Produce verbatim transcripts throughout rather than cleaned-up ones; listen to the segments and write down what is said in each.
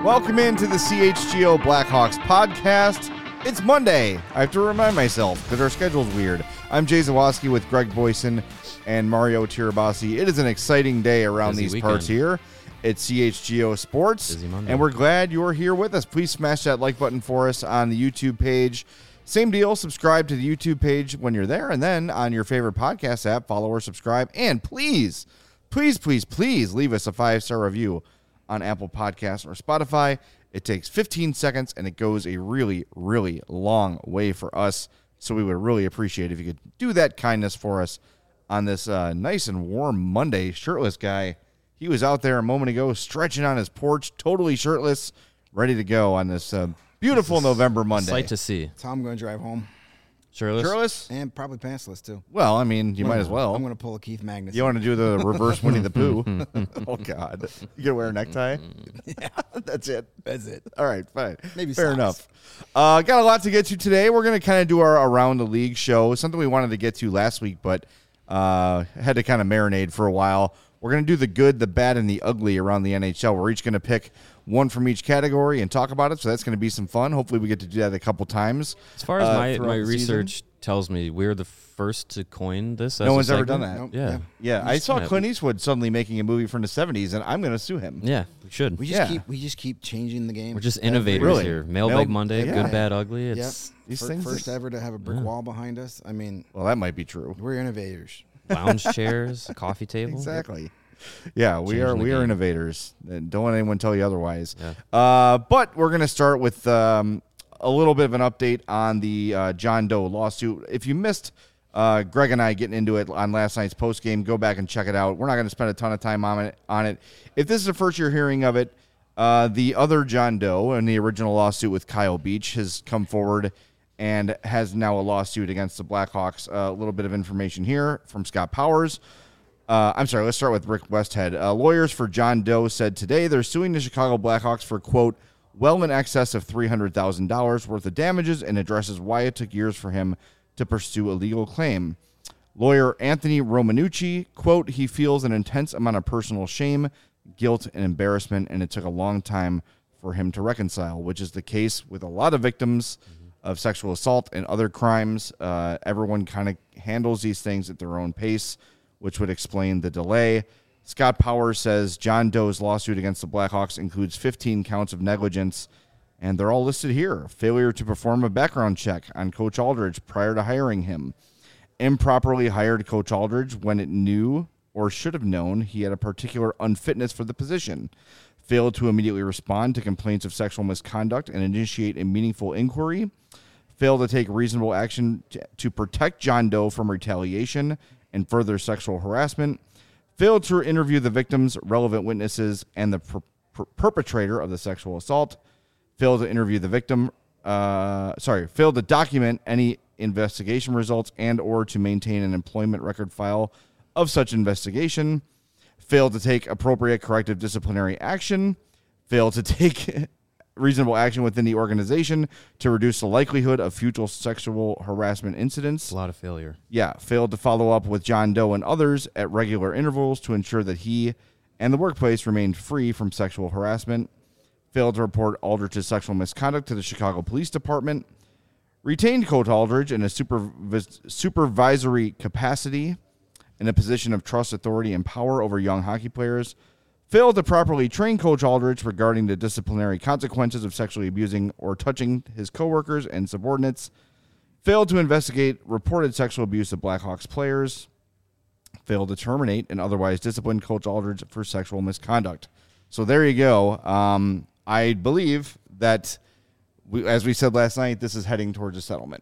Welcome into the C H G O Blackhawks podcast. It's Monday. I have to remind myself because our schedule's weird. I'm Jay Zawoski with Greg Boyson and Mario Tirabassi. It is an exciting day around Busy these weekend. parts here at C H G O Sports. Busy Monday. And we're glad you're here with us. Please smash that like button for us on the YouTube page. Same deal, subscribe to the YouTube page when you're there, and then on your favorite podcast app, follow or subscribe. And please, please, please, please leave us a five-star review on Apple Podcasts or Spotify. It takes fifteen seconds, and it goes a really, really long way for us. So we would really appreciate it if you could do that kindness for us on this uh, nice and warm Monday. Shirtless guy, he was out there a moment ago stretching on his porch, totally shirtless, ready to go on this uh, beautiful November Monday. Sight to see. So I'm going to drive home. Shirtless? Shirtless? And probably pantsless, too. Well, I mean, you I'm might gonna- as well. I'm going to pull a Keith Magnus. You want to do the reverse Winnie the Pooh? Oh, God. You going to wear a necktie? Yeah. That's it. That's it. All right, fine. Maybe Fair socks. enough. Uh, got a lot to get to today. We're going to kind of do our Around the League show, something we wanted to get to last week, but uh, had to kind of marinate for a while. We're going to do the good, the bad, and the ugly around the N H L. We're each going to pick one from each category and talk about it, so that's going to be some fun. Hopefully we get to do that a couple times. As far as uh, my, throughout my the research season. tells me, we're the first to coin this. As No a one's ever segment. done that. Nope. Yeah. Yeah, I saw Yeah. Clint Eastwood suddenly making a movie from the seventies, and I'm going to sue him. Yeah, we should. We just Yeah. keep we just keep changing the game. We're just Every- innovators Really? here. Mailbag Mail- Monday, yeah. good, bad, ugly. Yep. It's These Fir- things First are- ever to have a brick Yeah. wall behind us. I mean, Well, that might be true. we're innovators. lounge chairs, a coffee table. Exactly. Yeah, we Changing are the we are game. innovators. And don't let anyone tell you otherwise. Yeah. Uh, but we're going to start with um, a little bit of an update on the uh, John Doe lawsuit. If you missed uh, Greg and I getting into it on last night's post game, go back and check it out. We're not going to spend a ton of time on it. On it. If this is the first you're hearing of it, uh, the other John Doe in the original lawsuit with Kyle Beach has come forward and has now a lawsuit against the Blackhawks. Uh, a little bit of information here from Scott Powers. Uh, I'm sorry, let's start with Rick Westhead. Uh, lawyers for John Doe said today they're suing the Chicago Blackhawks for, quote, well in excess of three hundred thousand dollars worth of damages, and addresses why it took years for him to pursue a legal claim. Lawyer Anthony Romanucci, quote, he feels an intense amount of personal shame, guilt, and embarrassment, and it took a long time for him to reconcile, which is the case with a lot of victims of sexual assault and other crimes. Uh, everyone kind of handles these things at their own pace, which would explain the delay. Scott Powers says John Doe's lawsuit against the Blackhawks includes fifteen counts of negligence, and they're all listed here. Failure to perform a background check on Coach Aldridge prior to hiring him. Improperly hired Coach Aldridge when it knew or should have known he had a particular unfitness for the position. Failed to immediately respond to complaints of sexual misconduct and initiate a meaningful inquiry. Failed to take reasonable action to, to protect John Doe from retaliation and further sexual harassment. Failed to interview the victims, relevant witnesses, and the per- per- perpetrator of the sexual assault. Failed to interview the victim. Uh, sorry, failed to document any investigation results and or to maintain an employment record file of such investigation. Failed to take appropriate corrective disciplinary action. Failed to take reasonable action within the organization to reduce the likelihood of future sexual harassment incidents. It's a lot of failure. Yeah, failed to follow up with John Doe and others at regular intervals to ensure that he and the workplace remained free from sexual harassment. Failed to report Aldridge's sexual misconduct to the Chicago Police Department. Retained Coach Aldridge in a supervis- supervisory capacity in a position of trust, authority, and power over young hockey players. Failed to properly train Coach Aldridge regarding the disciplinary consequences of sexually abusing or touching his coworkers and subordinates. Failed to investigate reported sexual abuse of Blackhawks players. Failed to terminate and otherwise discipline Coach Aldridge for sexual misconduct. So there you go. Um, I believe that, we, as we said last night, this is heading towards a settlement.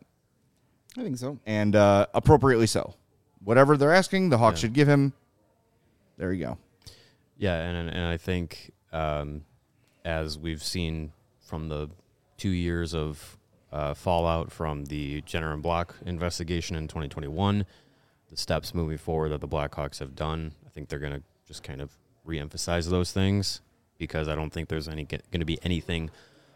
I think so. And uh, appropriately so. Whatever they're asking, the Hawks Yeah. should give him. There you go. Yeah, and and I think um, as we've seen from the two years of uh, fallout from the Jenner and Block investigation in twenty twenty-one, the steps moving forward that the Blackhawks have done, I think they're going to just kind of reemphasize those things because I don't think there's any going to be anything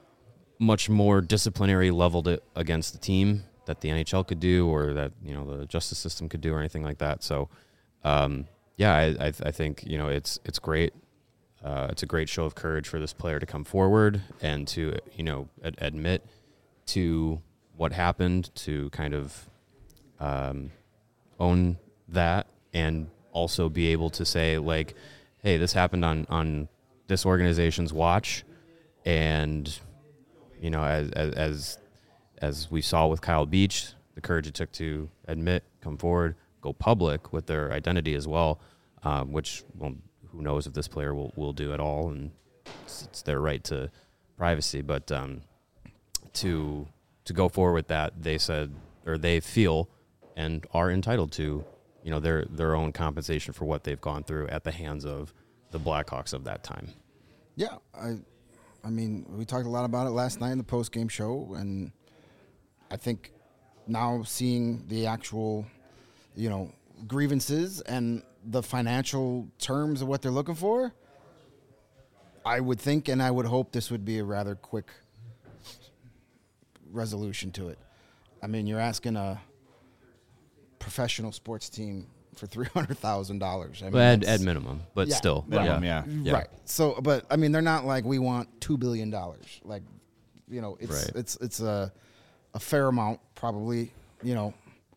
much more disciplinary leveled it against the team that the N H L could do or that, you know, the justice system could do or anything like that. So, um, yeah, I, I, I think, you know, it's it's great. Uh, uh, it's a great show of courage for this player to come forward and to, you know, ad- admit to what happened, to kind of um, own that, and also be able to say, like, hey, this happened on, on this organization's watch, and, you know, as as as, as we saw with Kyle Beach, the courage it took to admit, come forward, go public with their identity as well, um, which, well, who knows if this player will, will do at all, and it's, it's their right to privacy. But um, to to go forward with that, they said, or they feel and are entitled to, you know, their their own compensation for what they've gone through at the hands of the Blackhawks of that time. Yeah, I, I mean, we talked a lot about it last night in the post-game show, and I think now seeing the actual, you know, grievances and the financial terms of what they're looking for, I would think and I would hope this would be a rather quick resolution to it. I mean, you're asking a professional sports team for three hundred thousand dollars. I mean, Well, at, at minimum, but Yeah, still. Minimum, yeah. yeah. Yeah. Right. So, but I mean, they're not like we want two billion dollars. Like, you know, it's Right. it's it's a a fair amount, probably. You know,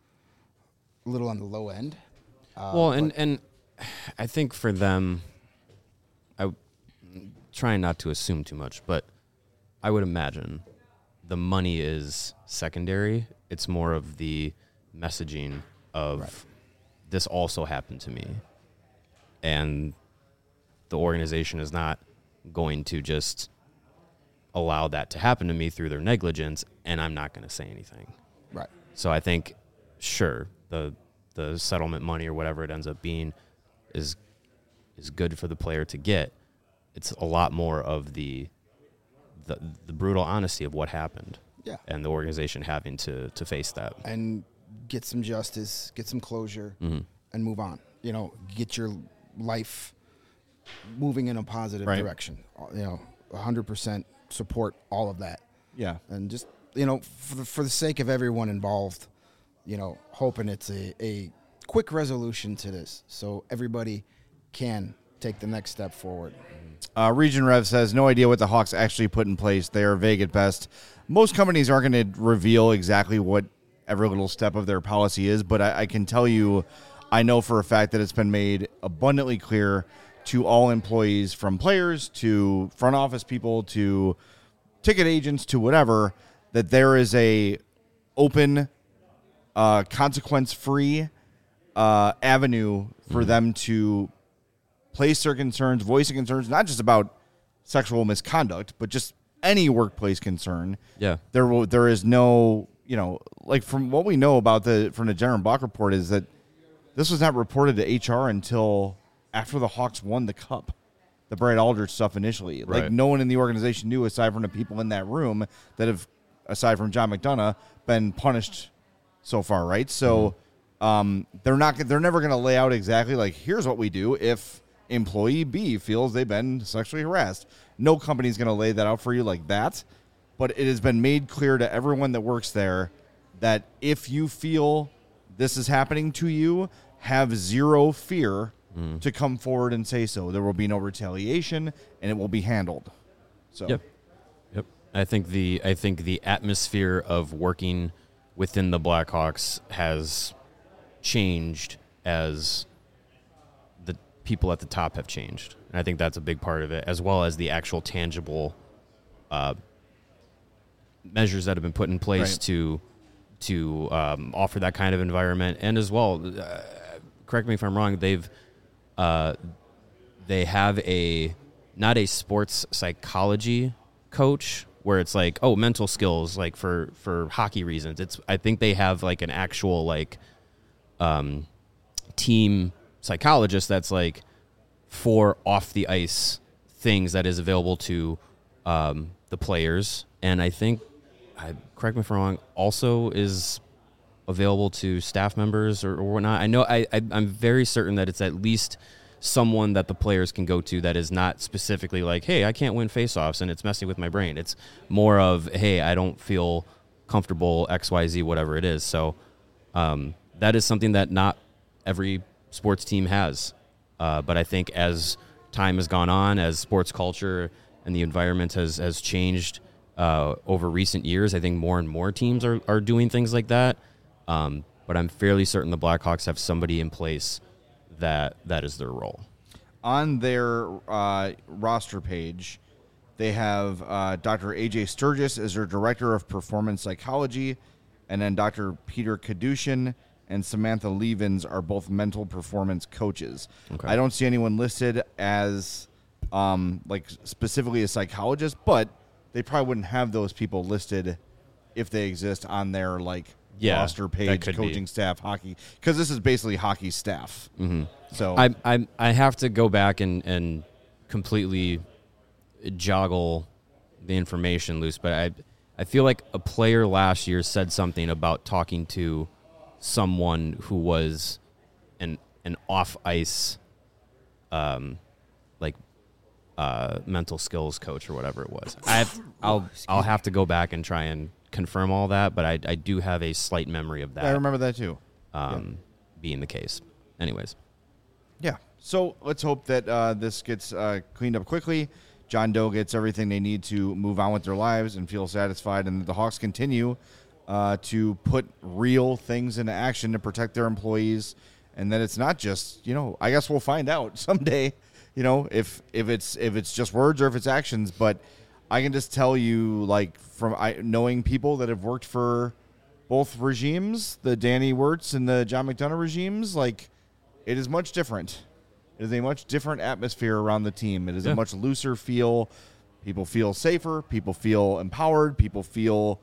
a little on the low end. Uh, Well, and, but- and I think for them, I trying not to assume too much, but I would imagine the money is secondary. It's more of the messaging of Right. this also happened to me, and the organization is not going to just allow that to happen to me through their negligence, and I'm not going to say anything. right. So I think, sure, the the settlement money or whatever it ends up being is is good for the player to get. It's a lot more of the the, the brutal honesty of what happened, Yeah. and the organization having to to face that. And get some justice, get some closure, Mhm. and move on. You know, get your life moving in a positive Right. direction. Uh, You know, one hundred percent support all of that. Yeah. And just, you know, for the, for the sake of everyone involved, you know, hoping it's a, a quick resolution to this so everybody can take the next step forward. Uh, Region Rev says, no idea what the Hawks actually put in place. They are vague at best. Most companies aren't going to reveal exactly what every little step of their policy is, but I, I can tell you, I know for a fact that it's been made abundantly clear to all employees, from players to front office people to ticket agents to whatever, that there is a open, uh, consequence-free uh, avenue for them to place their concerns, voice their concerns, not just about sexual misconduct, but just any workplace concern. Yeah. There will, there is no, you know, like from what we know about the, from the Jenner Block report is that this was not reported to H R until after the Hawks won the cup, the Brad Aldrich stuff initially. Like Right. no one in the organization knew aside from the people in that room that have, aside from John McDonough, been punished so far. Right. So, um, they're not, they're never going to lay out exactly like, here's what we do if employee B feels they've been sexually harassed. No company's going to lay that out for you like that, but it has been made clear to everyone that works there that if you feel this is happening to you, have zero fear to come forward and say so. There will be no retaliation, and it will be handled. So, Yep. Yep. I think the I think the atmosphere of working within the Blackhawks has changed as the people at the top have changed. And I think that's a big part of it, as well as the actual tangible uh, measures that have been put in place Right. to to um, offer that kind of environment. And as well, uh, correct me if I'm wrong, they've uh, they have a not a sports psychology coach where it's like, oh, mental skills, like for, for hockey reasons. It's I think they have like an actual like um, team psychologist that's like for off the ice things that is available to um, the players. And I think, I, correct me if I'm wrong, also is available to staff members or, or whatnot. I know I, I I'm very certain that it's at least someone that the players can go to that is not specifically like, hey, I can't win faceoffs and it's messing with my brain. It's more of, hey, I don't feel comfortable, X, Y, Z, whatever it is. So um, that is something that not every sports team has. Uh, but I think as time has gone on, as sports culture and the environment has, has changed uh, over recent years, I think more and more teams are, are doing things like that. Um, but I'm fairly certain the Blackhawks have somebody in place that that is their role. On their uh, roster page, they have uh, Doctor A J Sturgis as their Director of Performance Psychology, and then Doctor Peter Kadushin and Samantha Levens are both mental performance coaches. Okay. I don't see anyone listed as um, like specifically a psychologist, but they probably wouldn't have those people listed if they exist on their like Yeah, roster that page, could coaching be. staff, hockey, because this is basically hockey staff. Mm-hmm. So I, I I have to go back and, and completely joggle the information loose, but I I feel like a player last year said something about talking to someone who was an an off ice, um, like uh, mental skills coach or whatever it was. I I'll I'll have to go back and try and confirm all that, but I I do have a slight memory of that. I remember that too. um, Yeah. being the case. Anyways. Yeah. So let's hope that uh, this gets uh, cleaned up quickly. John Doe gets everything they need to move on with their lives and feel satisfied, and the Hawks continue uh, to put real things into action to protect their employees, and that it's not just, you know, I guess we'll find out someday, you know, if if it's if it's just words or if it's actions. But I can just tell you, like, from I, knowing people that have worked for both regimes, the Danny Wirtz and the John McDonough regimes, like, it is much different. It is a much different atmosphere around the team. It is Yeah. a much looser feel. People feel safer. People feel empowered. People feel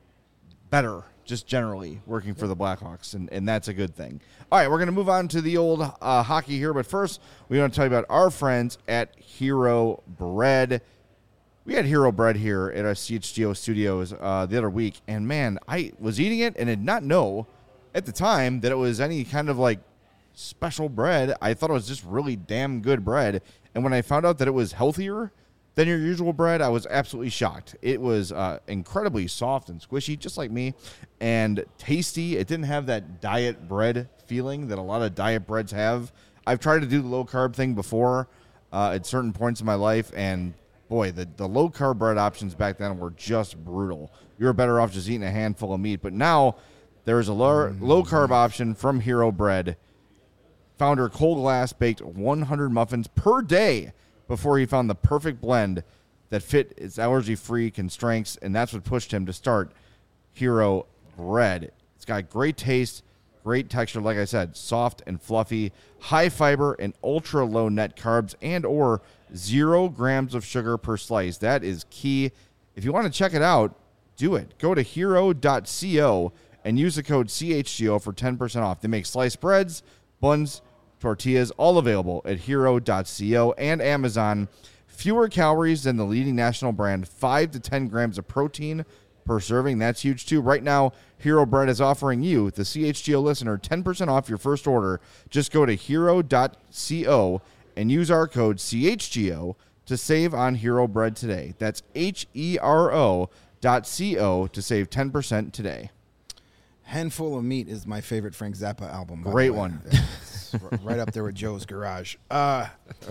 better, just generally, working for the Blackhawks, and, and that's a good thing. All right, we're going to move on to the old uh, hockey here, but first, we want to tell you about our friends at Hero Bread. We had Hero Bread here at our C H G O studios uh, the other week, and man, I was eating it and did not know at the time that it was any kind of like special bread. I thought it was just really damn good bread, and when I found out that it was healthier than your usual bread, I was absolutely shocked. It was uh, incredibly soft and squishy, just like me, and tasty. It didn't have that diet bread feeling that a lot of diet breads have. I've tried to do the low-carb thing before uh, at certain points in my life, and boy, the, the low-carb bread options back then were just brutal. You were better off just eating a handful of meat, but now there's a low, low-carb option from Hero Bread. Founder Cole Glass baked one hundred muffins per day before he found the perfect blend that fit his allergy-free constraints, and that's what pushed him to start Hero Bread. It's got great taste, great texture, like I said, soft and fluffy, high fiber and ultra-low net carbs, and or zero grams of sugar per slice. That is key. If you want to check it out, do it. Go to hero dot co and use the code C H G O for ten percent off. They make sliced breads, buns, tortillas, all available at hero dot co and Amazon. Fewer calories than the leading national brand, five to ten grams of protein per serving. That's huge, too. Right now, Hero Bread is offering you, the C H G O listener, ten percent off your first order. Just go to hero dot co and use our code C H G O to save on Hero Bread today. That's H E R O dot co to save ten percent today. Handful of Meat is my favorite Frank Zappa album. by the Great way. one. It's r- right up there with Joe's Garage. Uh,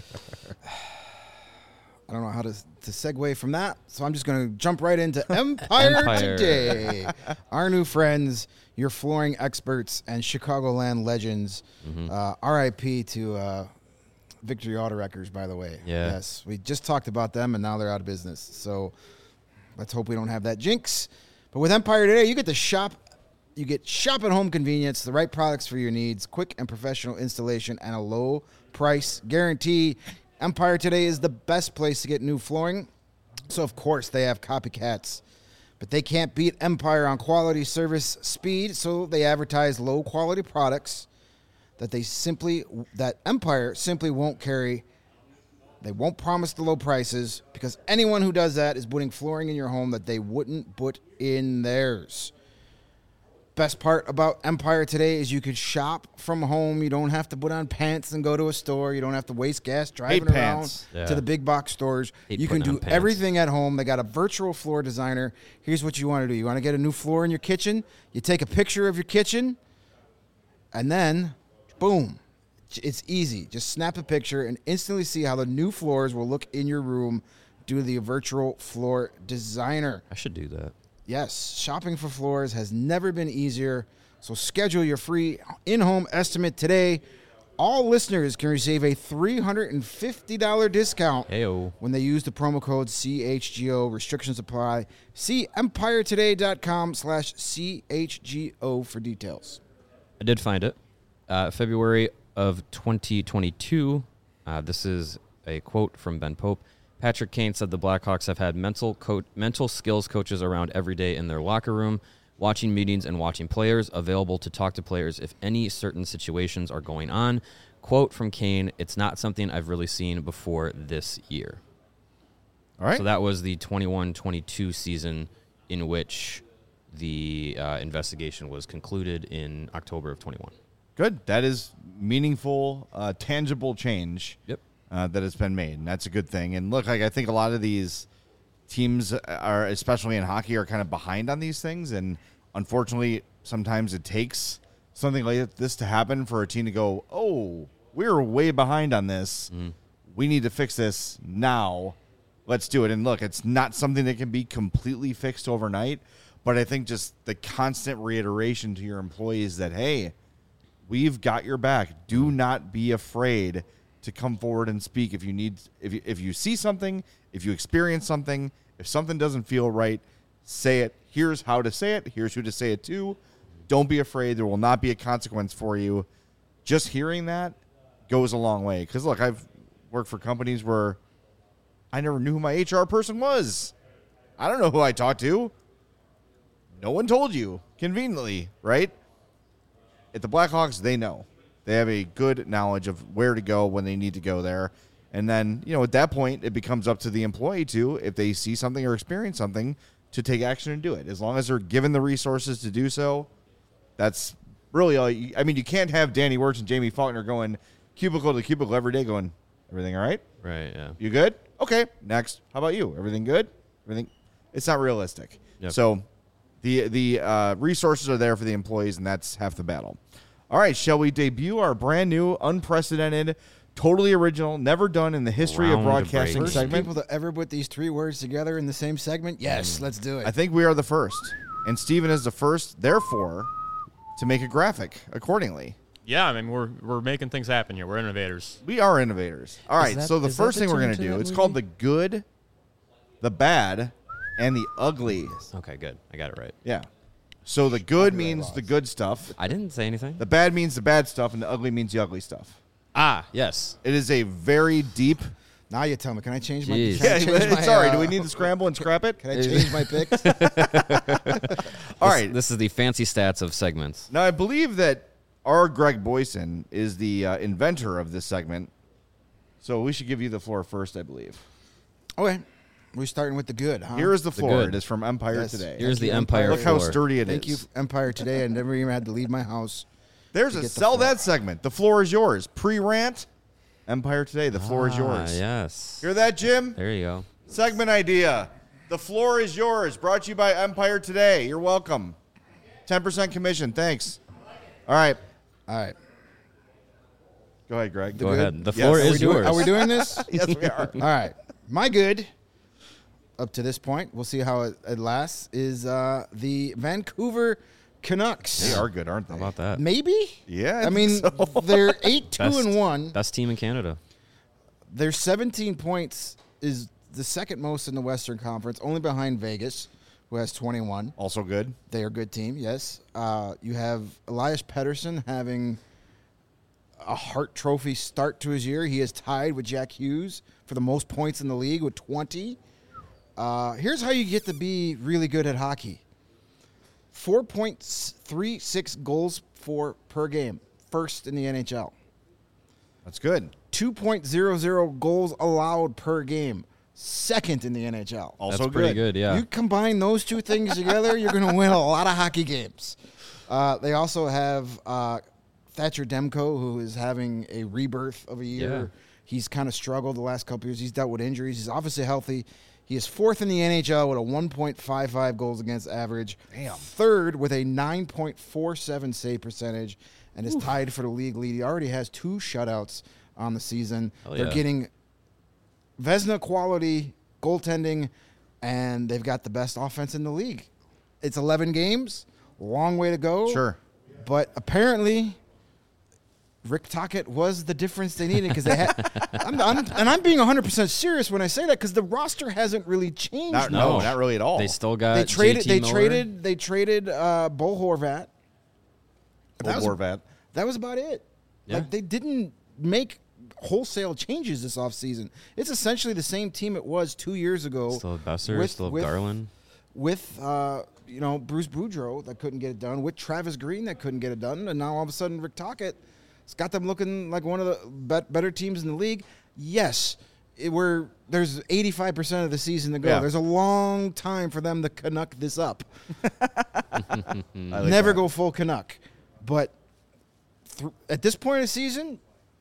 I don't know how to to segue from that, so I'm just going to jump right into Empire, Empire. Today. Our new friends, your flooring experts and Chicagoland legends. Mm-hmm. Uh, R I P to uh, Victory Auto Wreckers, by the way. Yeah. Yes, we just talked about them, and now they're out of business. So let's hope we don't have that jinx. But with Empire Today, you get to shop. You get shop at home convenience, the right products for your needs, quick and professional installation, and a low price guarantee. Empire Today is the best place to get new flooring. So, of course, they have copycats. But they can't beat Empire on quality, service, speed, so they advertise low-quality products that they simply that Empire simply won't carry. They won't promise the low prices because anyone who does that is putting flooring in your home that they wouldn't put in theirs. Best part about Empire Today is you could shop from home. You don't have to put on pants and go to a store. You don't have to waste gas driving Hate around pants. Yeah. to the big box stores. Hate You can putting do on pants. everything at home. They got a virtual floor designer. Here's what you want to do. You want to get a new floor in your kitchen? You take a picture of your kitchen, and then, boom, It's easy. Just snap a picture and instantly see how the new floors will look in your room due to the virtual floor designer. I should do that. Yes, shopping for floors has never been easier. So schedule your free in-home estimate today. All listeners can receive a three hundred fifty dollars discount Heyo. when they use the promo code C H G O. Restrictions apply. See empiretoday.com slash CHGO for details. I did find it. Uh, February of twenty twenty-two. Uh, this is a quote from Ben Pope. Patrick Kane said the Blackhawks have had mental co- mental skills coaches around every day in their locker room, watching meetings and watching players, available to talk to players if any certain situations are going on. Quote from Kane, it's not something I've really seen before this year. All right. So that was the twenty-one twenty-two season in which the uh, investigation was concluded in October of twenty-one. Good. That is meaningful, uh, tangible change. Yep. Uh, that has been made, and that's a good thing. And look, like I think a lot of these teams are, especially in hockey, are kind of behind on these things, and unfortunately, sometimes it takes something like this to happen for a team to go, "Oh, we're way behind on this. Mm. We need to fix this now. Let's do it." And look, it's not something that can be completely fixed overnight, but I think just the constant reiteration to your employees that, hey, we've got your back. Do not be afraid to come forward and speak if you need, if you, if you see something, if you experience something, if something doesn't feel right, say it. Here's how to say it. Here's who to say it to. Don't be afraid. There will not be a consequence for you. Just hearing that goes a long way. Because, look, I've worked for companies where I never knew who my H R person was. I don't know who I talked to. No one told you, conveniently, right? At the Blackhawks, they know. They have a good knowledge of where to go when they need to go there. And then, you know, at that point, it becomes up to the employee to, if they see something or experience something, to take action and do it. As long as they're given the resources to do so, that's really all you, I mean, you can't have Danny Wirtz and Jamie Faulkner going cubicle to cubicle every day going, everything all right? Right, yeah. You good? Okay, next. How about you? Everything good? Everything? It's not realistic. Yep. So the the uh, resources are there for the employees, and that's half the battle. All right, shall we debut our brand new, unprecedented, totally original, never done in the history of broadcasting First segment? people to ever put these three words together in the same segment? Yes, mm. let's do it. I think we are the first. And Steven is the first, therefore, to make a graphic accordingly. Yeah, I mean, we're we're making things happen here. We're innovators. We are innovators. All right, that, so the first the thing we're going to do, it's movie? called the good, the bad, and the ugly. Okay, good. I got it right. Yeah. So the good means the good stuff. I didn't say anything. The bad means the bad stuff, and the ugly means the ugly stuff. Ah, yes. It is a very deep. Now you tell me. Can I change my? Jeez. Can I Yeah, change my, sorry. uh, Do we need to scramble and scrap it? Can I change my picks? All This, right. this is the fancy stats of segments. Now I believe that our Greg Boyson is the uh, inventor of this segment, so we should give you the floor first, I believe. Okay, we're starting with the good. Huh? Here is the floor. good. It is from Empire Yes. Today. Here's Thank the you, Empire Empire. Look how floor. sturdy it is. Thank you, Empire Today. I never even had to leave my house. There's to a get the sell floor. that segment. The floor is yours. Pre-rant, Empire Today. The floor is Ah, yours. yes. Hear that, Jim? There you go. Segment idea. The floor is yours. Brought to you by Empire Today. You're welcome. ten percent commission. Thanks. All right. All right. Go ahead, Greg. Go good? ahead. The Yes. floor Are we is Doing- yours. Are we doing this? Yes, we are. All right. My good, up to this point, we'll see how it, it lasts, is uh, the Vancouver Canucks. They are good, aren't they? How about that? Maybe? Yeah, I I, think mean, so. they're eight, two, Best, and one. Best team in Canada. Their seventeen points is the second most in the Western Conference, only behind Vegas, who has twenty-one. Also good. They are a good team, yes. Uh, you have Elias Pettersson having a Hart Trophy start to his year. He is tied with Jack Hughes for the most points in the league with twenty. Uh, here's how you get to be really good at hockey. four point three six goals for per game, first in the N H L. That's good. two point oh oh goals allowed per game, second in the N H L. Also That's pretty good, yeah. You combine those two things together, you're going to win a lot of hockey games. Uh, they also have uh, Thatcher Demko, who is having a rebirth of a year. Yeah. He's kind of struggled the last couple years. He's dealt with injuries. He's obviously healthy. He is fourth in the N H L with a one point five five goals against average. Damn. Third with a nine point four seven save percentage. and is tied for the league lead. He already has two shutouts on the season. Hell They're yeah. getting Vezina quality goaltending, and they've got the best offense in the league. It's eleven games, long way to go. Sure. But apparently, Rick Tocchet was the difference they needed because they had. I'm, I'm, and I'm being one hundred percent serious when I say that because the roster hasn't really changed. Not, much. no, not really at all. They still got They traded. J T They Miller. traded. They traded uh, Bo Horvat. Old That was- Horvat. That was about it. Yeah. Like they didn't make wholesale changes this offseason. It's essentially the same team it was two years ago. Still have Besser, with- still have with- Garland. with uh, you know Bruce Boudreau that couldn't get it done, with Travis Green that couldn't get it done, and now all of a sudden Rick Tocchet has got them looking like one of the bet- better teams in the league. Yes, it, we're there's eighty-five percent of the season to go. Yeah. There's a long time for them to Canuck this up. I like Never that. go full Canuck, but th- at this point of the season,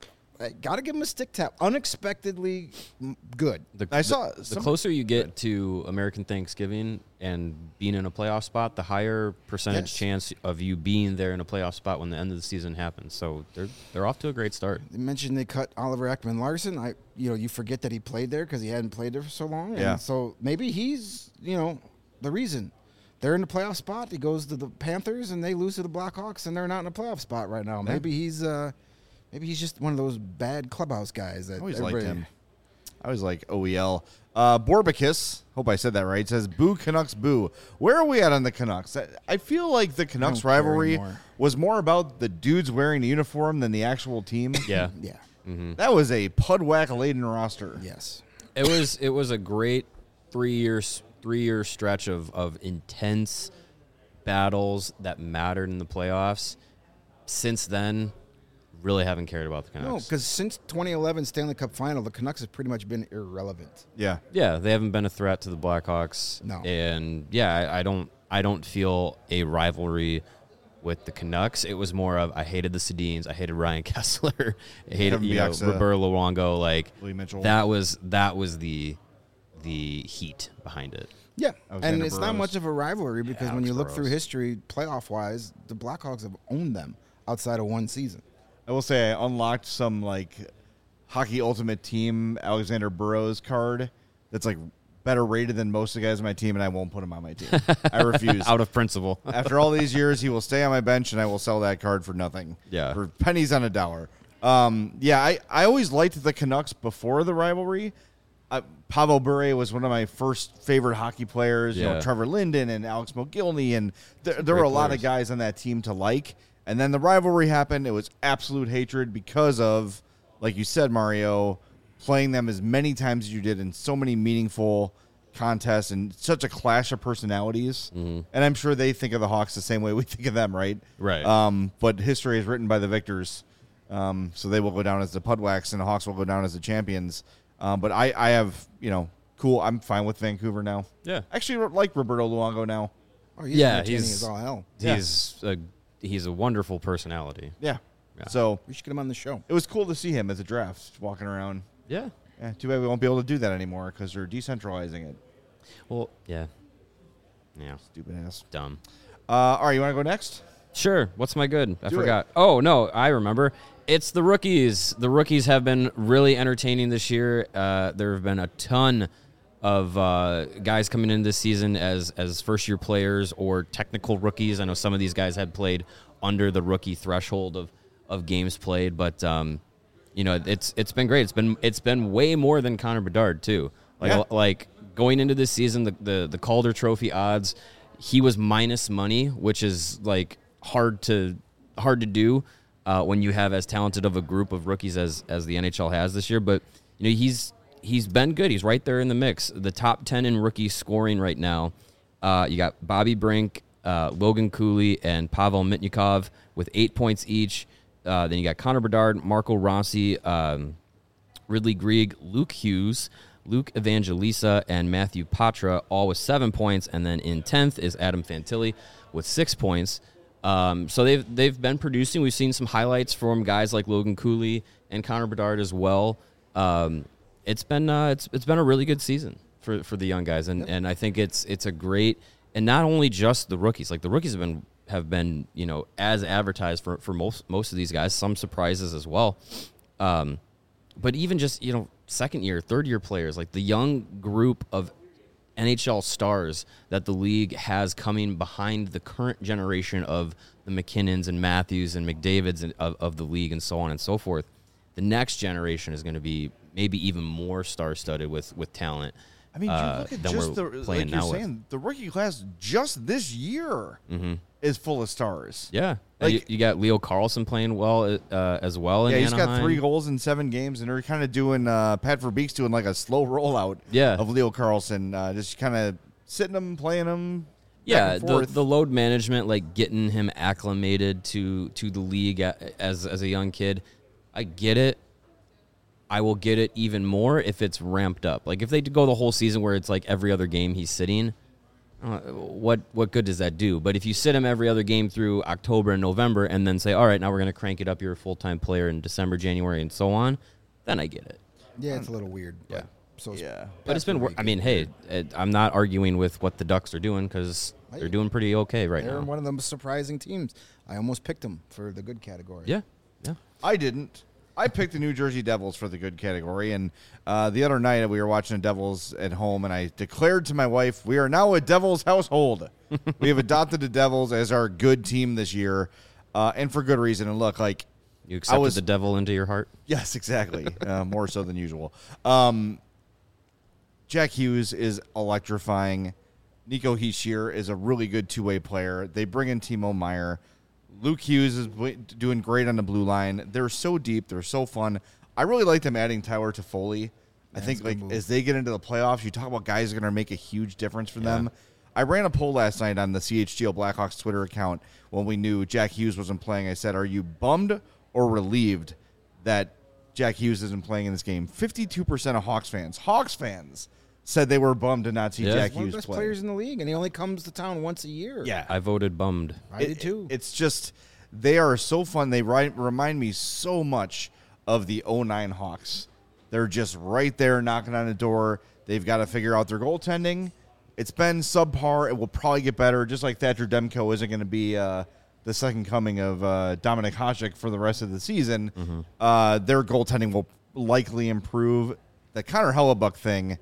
I got to give them a stick tap. Unexpectedly mm, good. The, I saw the, the some- closer you get to American Thanksgiving and being in a playoff spot, the higher percentage Yes. chance of you being there in a playoff spot when the end of the season happens. So they're they're off to a great start. They mentioned they cut Oliver Ekman Larson. I, you know, you forget that he played there because he hadn't played there for so long. And Yeah. so maybe he's, you know, the reason they're in the playoff spot. He goes to the Panthers and they lose to the Blackhawks and they're not in a playoff spot right now. Maybe he's, uh, maybe he's just one of those bad clubhouse guys that I always liked everybody- him. I always like O E L. Uh, Borbicus, hope I said that right, says, boo Canucks, boo. Where are we at on the Canucks? I, I feel like the Canucks don't care rivalry anymore. was more about the dudes wearing the uniform than the actual team. Yeah, Yeah. That was a pudwhack-laden roster. Yes. it was it was a great three years three year stretch of of intense battles that mattered in the playoffs. Since then, really haven't cared about the No, Canucks. because since twenty eleven Stanley Cup Final, the Canucks have pretty much been irrelevant. Yeah. Yeah, they haven't been a threat to the Blackhawks. No. And yeah, I, I don't I don't feel a rivalry with the Canucks. It was more of I hated the Sedins, I hated Ryan Kessler, I hated Kevin you know, Bieksa. Roberto Luongo. Like Lee Mitchell. that was that was the the heat behind it. Yeah, Alexander and it's not Burrows. much of a rivalry because when Alex you look through Burrows. history, playoff-wise, the Blackhawks have owned them outside of one season. I will say I unlocked some, like, Hockey Ultimate Team Alexander Burrows card that's, like, better rated than most of the guys on my team, and I won't put him on my team. I refuse. Out of principle. After all these years, he will stay on my bench, and I will sell that card for nothing. Yeah. For pennies on a dollar. Um, yeah, I, I always liked the Canucks before the rivalry. Uh, Pavel Bure was one of my first favorite hockey players. You know, Yeah. Trevor Linden and Alex Mogilny, and there, there Great were a lot players. of guys on that team to like. And then the rivalry happened. It was absolute hatred because of, like you said, Mario, playing them as many times as you did in so many meaningful contests and such a clash of personalities. Mm-hmm. And I'm sure they think of the Hawks the same way we think of them, right? Right. Um, but history is written by the victors. Um, so they will go down as the Pudwacks and the Hawks will go down as the champions. Um, but I, I have, you know, cool. I'm fine with Vancouver now. Yeah. Actually, like Roberto Luongo now. Oh, he's Yeah, entertaining he's- as all hell. Yeah. He's a he's a wonderful personality. Yeah. Yeah. So We should get him on the show. it was cool to see him as a draft walking around. Yeah. Yeah, too bad we won't be able to do that anymore because they're decentralizing it. Well, yeah. Yeah. Stupid ass. Dumb. Uh, all right, you want to go next? Sure. What's my good? I Do it. forgot. Oh, no, I remember. It's the rookies. The rookies have been really entertaining this year. Uh, there have been a ton of uh, guys coming in this season as as first year players or technical rookies. I know some of these guys had played under the rookie threshold of, of games played, but um, you know it's it's been great. It's been it's been way more than Connor Bedard too. Like Yeah. like going into this season, the, the the Calder Trophy odds, he was minus money, which is like hard to hard to do uh, when you have as talented of a group of rookies as as the N H L has this year. But you know he's he's been good. He's right there in the mix. The top ten in rookie scoring right now. Uh, you got Bobby Brink, uh, Logan Cooley, and Pavel Mitnikov with eight points each. Uh, then you got Connor Bedard, Marco Rossi, um, Ridley Grieg, Luke Hughes, Luke Evangelista, and Matthew Patra, all with seven points. And then in tenth is Adam Fantilli with six points. Um, so they've they've been producing. We've seen some highlights from guys like Logan Cooley and Connor Bedard as well. Um, it's been uh, it's it's been a really good season for, for the young guys, and, and I think it's it's a great, and not only just the rookies. Like the rookies have been have been, you know, as advertised for, for most most of these guys. Some surprises as well. Um, but even just, you know, second year, third year players, like the young group of N H L stars that the league has coming behind the current generation of the McKinnons and Matthews and McDavids and, of, of the league and so on and so forth. The next generation is going to be maybe even more star-studded with, with talent. I mean, you uh, look at than just we're the playing like you're now with. saying, the rookie class just this year Mm-hmm. is full of stars. Yeah. Like- you, you got Leo Carlson playing well uh, as well in Yeah, he's got Anaheim. three goals in seven games, and they're kind of doing uh, Pat Verbeek's doing like a slow rollout Yeah. of Leo Carlson, uh, just kind of sitting him, playing him. Yeah, back and the, forth. the load management, like getting him acclimated to to the league a- as as a young kid, I get it. I will get it even more if it's ramped up. Like if they go the whole season where it's like every other game he's sitting, uh, what what good does that do? But if you sit him every other game through October and November, and then say, all right, now we're going to crank it up, you're a full time player in December, January, and so on, then I get it. Yeah, it's a little weird. Yeah. But so is Yeah. But it's been. wor- Patrick I mean, Reed. hey, it, I'm not arguing with what the Ducks are doing because Hey, they're doing pretty okay right They're now. one of the surprising teams. I almost picked them for the good category. Yeah, yeah. I didn't. I picked the New Jersey Devils for the good category, and uh, the other night we were watching the Devils at home, and I declared to my wife, "We are now a Devils household. We have adopted the Devils as our good team this year, uh, and for good reason." And look, like You accepted was- the devil into your heart. yes, exactly, uh, more so than usual. Um, Jack Hughes is electrifying. Nico Hischier is a really good two-way player. They bring in Timo Meyer. Luke Hughes is w- doing great on the blue line. They're so deep. They're so fun. I really like them adding Tyler Toffoli. I think it's a good like move. as they get into the playoffs, you talk about guys that are going to make a huge difference for them. I ran a poll last night on the C H G L Blackhawks Twitter account when we knew Jack Hughes wasn't playing. I said, "Are you bummed or relieved that Jack Hughes isn't playing in this game?" fifty-two percent of Hawks fans, Hawks fans, said they were bummed to not see Yeah. Jack One of Hughes the best play. players in the league, and he only comes to town once a year. Yeah, I voted bummed. I It- did too. It's just they are so fun. They ri- remind me so much of the oh nine Hawks. They're just right there knocking on the door. They've got to figure out their goaltending. It's been subpar. It will probably get better, just like Thatcher Demko isn't going to be uh, the second coming of uh, Dominic Hasek for the rest of the season. Mm-hmm. Uh, their goaltending will likely improve. The Connor Hellebuck thing,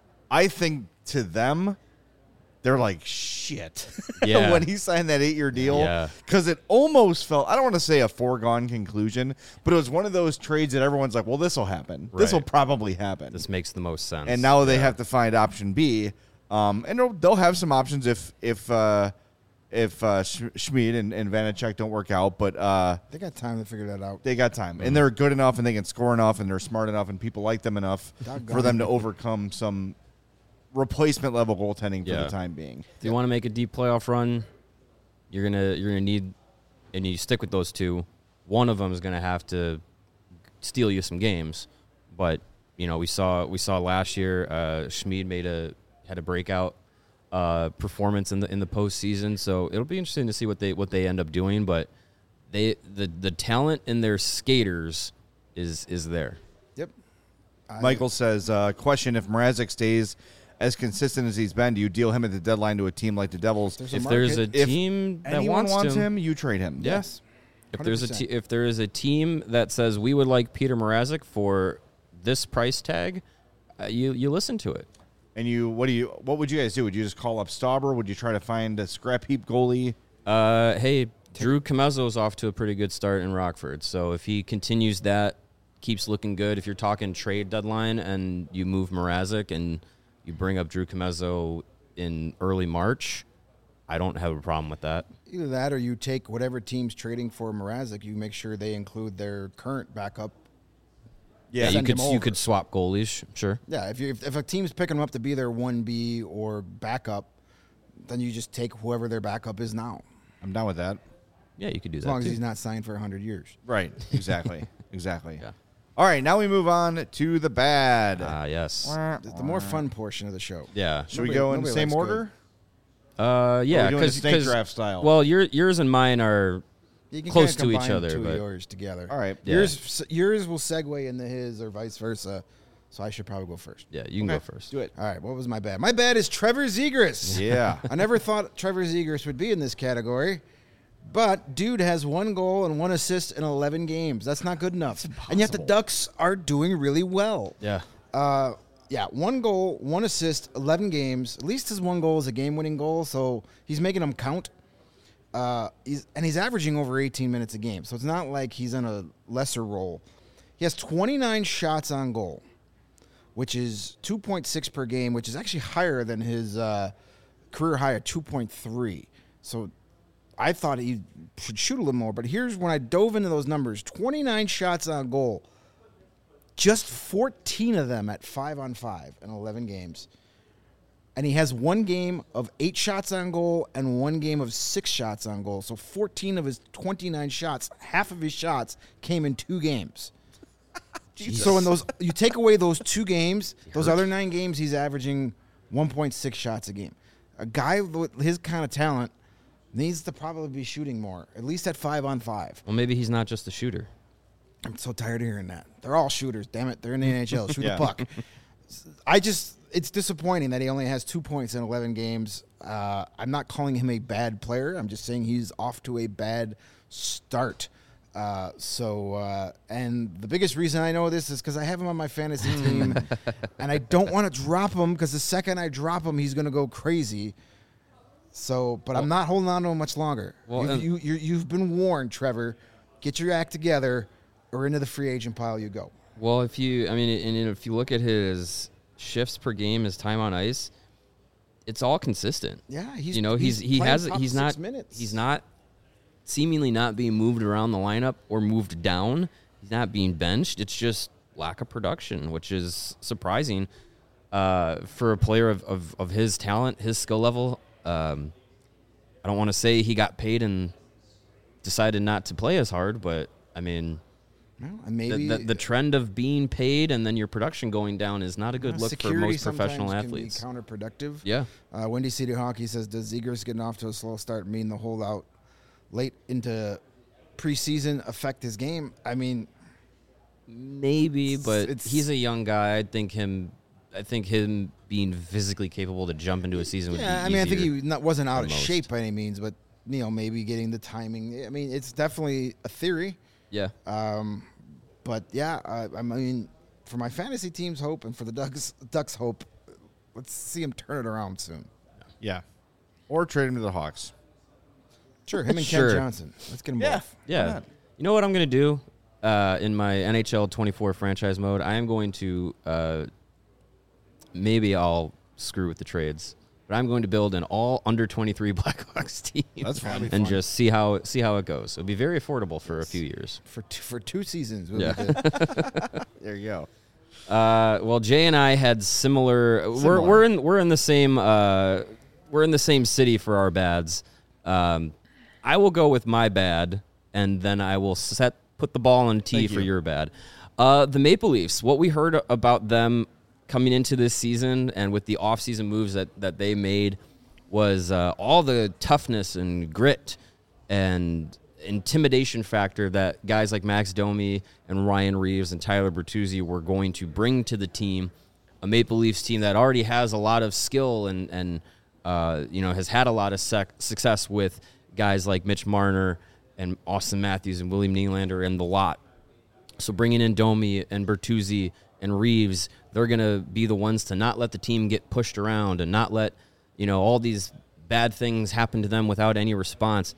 I think to them, they're like, shit. Yeah. when he signed that eight-year deal. Yeah. Because it almost felt, I don't want to say a foregone conclusion, but it was one of those trades that everyone's like, well, this will happen. This will Right. probably happen. This makes the most sense. and now they Yeah. have to find option B. Um, and they'll, they'll have some options if if uh, if uh, Sch- Schmid and, and Vanacek don't work out. But uh, They got time to figure that out. they got time. Mm-hmm. And they're good enough and they can score enough and they're smart enough and people like them enough Doggone for them it. to overcome some replacement level goaltending for Yeah. the time being. If you want to make a deep playoff run, you're gonna you're gonna need, and you stick with those two. One of them is gonna have to steal you some games, but you know we saw we saw last year. Uh, Schmid made a had a breakout uh, performance in the in the postseason, so it'll be interesting to see what they what they end up doing. But they the the talent in their skaters is is there. Yep. I- Michael says, uh, question, if Mrazek stays as consistent as he's been, do you deal him at the deadline to a team like the Devils? There's a If there's a market. If team that Anyone wants, wants him, him, you trade him. yes. If there's a one hundred te- percent. if there is a team that says we would like Peter Mrazek for this price tag, uh, you you listen to it. And you, what do you, what would you guys do? Would you just call up Stauber? Would you try to find a scrap heap goalie? Uh, hey, Drew Comezzo's off to a pretty good start in Rockford, so if he continues that, keeps looking good. If you're talking trade deadline and you move Mrazek and you bring up Drew Comezzo in early March, I don't have a problem with that. Either that or you take whatever team's trading for Mrazek, you make sure they include their current backup. Yeah, you Send could him you over. could swap goalies, sure. Yeah, if you if, if a team's picking him up to be their one B or backup, then you just take whoever their backup is now, I'm down with that. Yeah, you could do as that. long as too. he's not signed for one hundred years. Right. Exactly. exactly. Yeah. All right. Now we move on to the bad. Ah, yes. The, the more fun portion of the show. Yeah. Should we nobody- go in the nobody same likes order? Uh, yeah, we doing because the snake draft style? Well, your yours and mine are You can close kinda to each combine other, two but- of yours together. All right. Yeah. Yours yours will segue into his or vice versa. So I should probably go first. yeah. You can Okay, go first. Do it. All right. What was my bad? My bad is Trevor Zegras. Yeah. I never thought Trevor Zegras would be in this category, But dude has one goal and one assist in eleven games. That's not good enough. And yet the Ducks are doing really well. Yeah. Uh, yeah, one goal, one assist, eleven games. At least his one goal is a game-winning goal, so he's making them count. Uh, he's, and he's averaging over eighteen minutes a game, so it's not like he's in a lesser role. He has twenty-nine shots on goal, which is two point six per game, which is actually higher than his uh, career high of two point three. So I thought he should shoot a little more, but here's when I dove into those numbers. twenty-nine shots on goal, just fourteen of them at five on five in eleven games. And he has one game of eight shots on goal and one game of six shots on goal. So fourteen of his twenty-nine shots, half of his shots came in two games. So in those, you take away those two games, those other nine games, he's averaging one point six shots a game. A guy with his kind of talent needs to probably be shooting more, at least at five on five. Well, maybe he's not just a shooter. I'm so tired of hearing that. They're all shooters. Damn it. They're in the N H L. Shoot Yeah. the puck. I just, it's disappointing that he only has two points in eleven games. Uh, I'm not calling him a bad player. I'm just saying he's off to a bad start. Uh, so, uh, and the biggest reason I know this is because I have him on my fantasy team, and I don't want to drop him because the second I drop him, he's going to go crazy. So, but I'm not holding on to him much longer. Well, You've, and- you, you, you've been warned, Trevor. Get your act together, or into the free agent pile you go. Well, if you, I mean, and if you look at his shifts per game, his time on ice, it's all consistent. Yeah, he's you know, he's, he's he playing has top he's six not minutes. he's not seemingly not being moved around the lineup or moved down. He's not being benched. It's just lack of production, which is surprising uh, for a player of, of, of his talent, his skill level. Um, I don't want to say he got paid and decided not to play as hard, but I mean, Well, and maybe the, the, the trend of being paid and then your production going down is not a good uh, look for security most professional sometimes athletes. can be counterproductive. Yeah. Uh, Windy City Hockey says, does Zegers getting off to a slow start mean the holdout late into preseason affect his game? I mean, Maybe, but it's- he's a young guy. I think him. I think him being physically capable to jump into a season would yeah, be I mean, I think easier he not, wasn't out than of most. shape by any means, but, you know, maybe getting the timing. I mean, it's definitely a theory. Yeah. Um, but, yeah, I, I mean, for my fantasy team's hope and for the Ducks, Ducks' hope, let's see him turn it around soon. Yeah. Or trade him to the Hawks. Sure, him and Sure. Ken Johnson. Let's get them Yeah. both. Yeah. not? You know what I'm going to do uh, in my N H L twenty-four franchise mode? I am going to uh, maybe I'll screw with the trades, but I'm going to build an all under twenty-three Blackhawks team. That's fine. That'd be and fun. just see how see how it goes. It'll be very affordable for a few years. For two, for two seasons. We'll Yeah. be good. There you go. Uh, well, Jay and I had similar. We're Similar. we're in we're in the same uh, we're in the same city for our bads. Um, I will go with my bad, and then I will set put the ball on tee Thank for you. your bad. Uh, the Maple Leafs. What we heard about them coming into this season and with the offseason moves that that they made was uh, all the toughness and grit and intimidation factor that guys like Max Domi and Ryan Reeves and Tyler Bertuzzi were going to bring to the team. A Maple Leafs team that already has a lot of skill and and uh, you know has had a lot of sec- success with guys like Mitch Marner and Austin Matthews and William Nylander and the lot. So bringing in Domi and Bertuzzi and Reeves, they're going to be the ones to not let the team get pushed around and not let, you know, all these bad things happen to them without any response.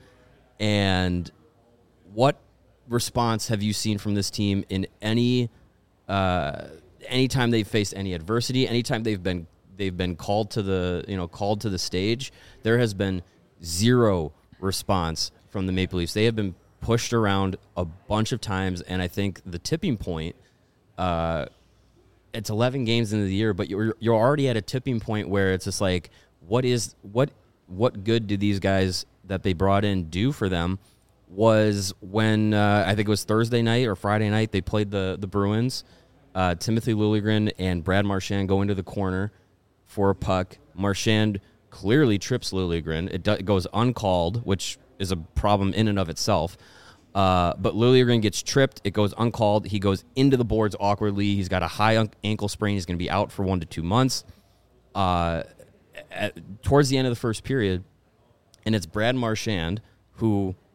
And what response have you seen from this team in any uh, anytime they've faced any adversity, anytime they've been they've been called to the, you know, called to the stage? There has been zero response from the Maple Leafs. They have been pushed around a bunch of times, and I think the tipping point, uh, it's eleven games into the year, but you're you're already at a tipping point where it's just like, what is what what good do these guys that they brought in do for them? Was when uh, I think it was Thursday night or Friday night they played the the Bruins. Uh, Timothy Liljegren and Brad Marchand go into the corner for a puck. Marchand clearly trips Liljegren. It, do, it goes uncalled, which is a problem in and of itself. Uh, but Liljegren gets tripped. It goes uncalled. He goes into the boards awkwardly. He's got a high un- ankle sprain. He's going to be out for one to two months. Uh, at, towards the end of the first period, and it's Brad Marchand, who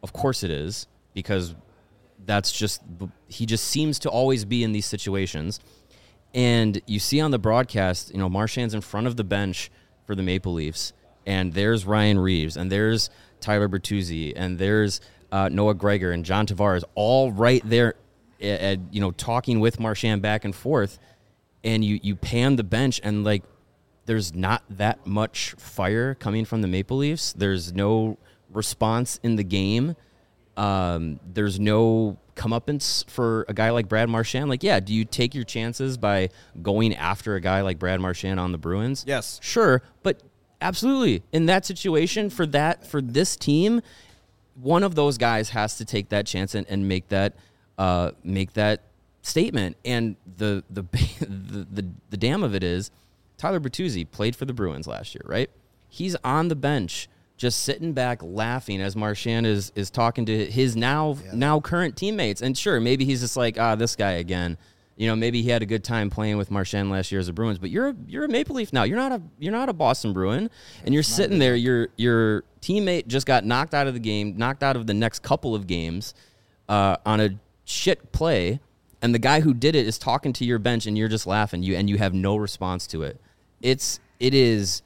Of course it is, because that's just he just seems to always be in these situations. And you see on the broadcast, you know, Marchand's in front of the bench for the Maple Leafs, and there's Ryan Reeves, and there's Tyler Bertuzzi, and there's uh, Noah Gregor and John Tavares, all right there, at, at, you know, talking with Marchand back and forth. And you you pan the bench, and like, there's not that much fire coming from the Maple Leafs. There's no response in the game. Um, there's no comeuppance for a guy like Brad Marchand. Like, yeah, do you take your chances by going after a guy like Brad Marchand on the Bruins? Yes. Sure, but absolutely. In that situation, for that for this team, one of those guys has to take that chance and, and make that uh, make that statement. And the the, the the the damn of it is, Tyler Bertuzzi played for the Bruins last year, right? He's on the bench, just sitting back laughing as Marchand is is talking to his now yeah. now current teammates. And sure, maybe he's just like, ah, this guy again. You know, maybe he had a good time playing with Marchand last year as a Bruins, but you're a, you're a Maple Leaf now. You're not a you're not a Boston Bruin, and you're sitting there. Your your teammate just got knocked out of the game, knocked out of the next couple of games uh, on a shit play, and the guy who did it is talking to your bench, and you're just laughing. You and you have no response to it. It's it is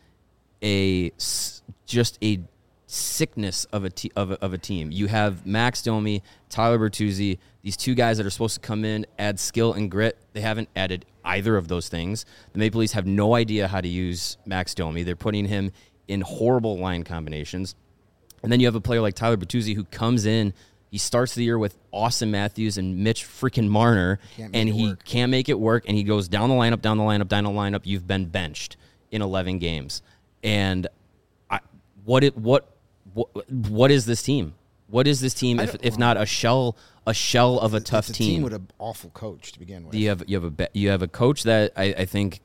a just a sickness of a, te- of a of a team. You have Max Domi, Tyler Bertuzzi, these two guys that are supposed to come in, add skill and grit. They haven't added either of those things. The Maple Leafs have no idea how to use Max Domi. They're putting him in horrible line combinations. And then you have a player like Tyler Bertuzzi who comes in. He starts the year with Austin Matthews and Mitch freaking Marner, and he work. can't make it work. And he goes down the lineup, down the lineup, down the lineup. You've been benched in eleven games. And I, what it what what what is this team? What is this team if if not a shell a shell of a it's, tough it's a team? team with an awful coach to begin with. You have you have a you have a coach that I, I think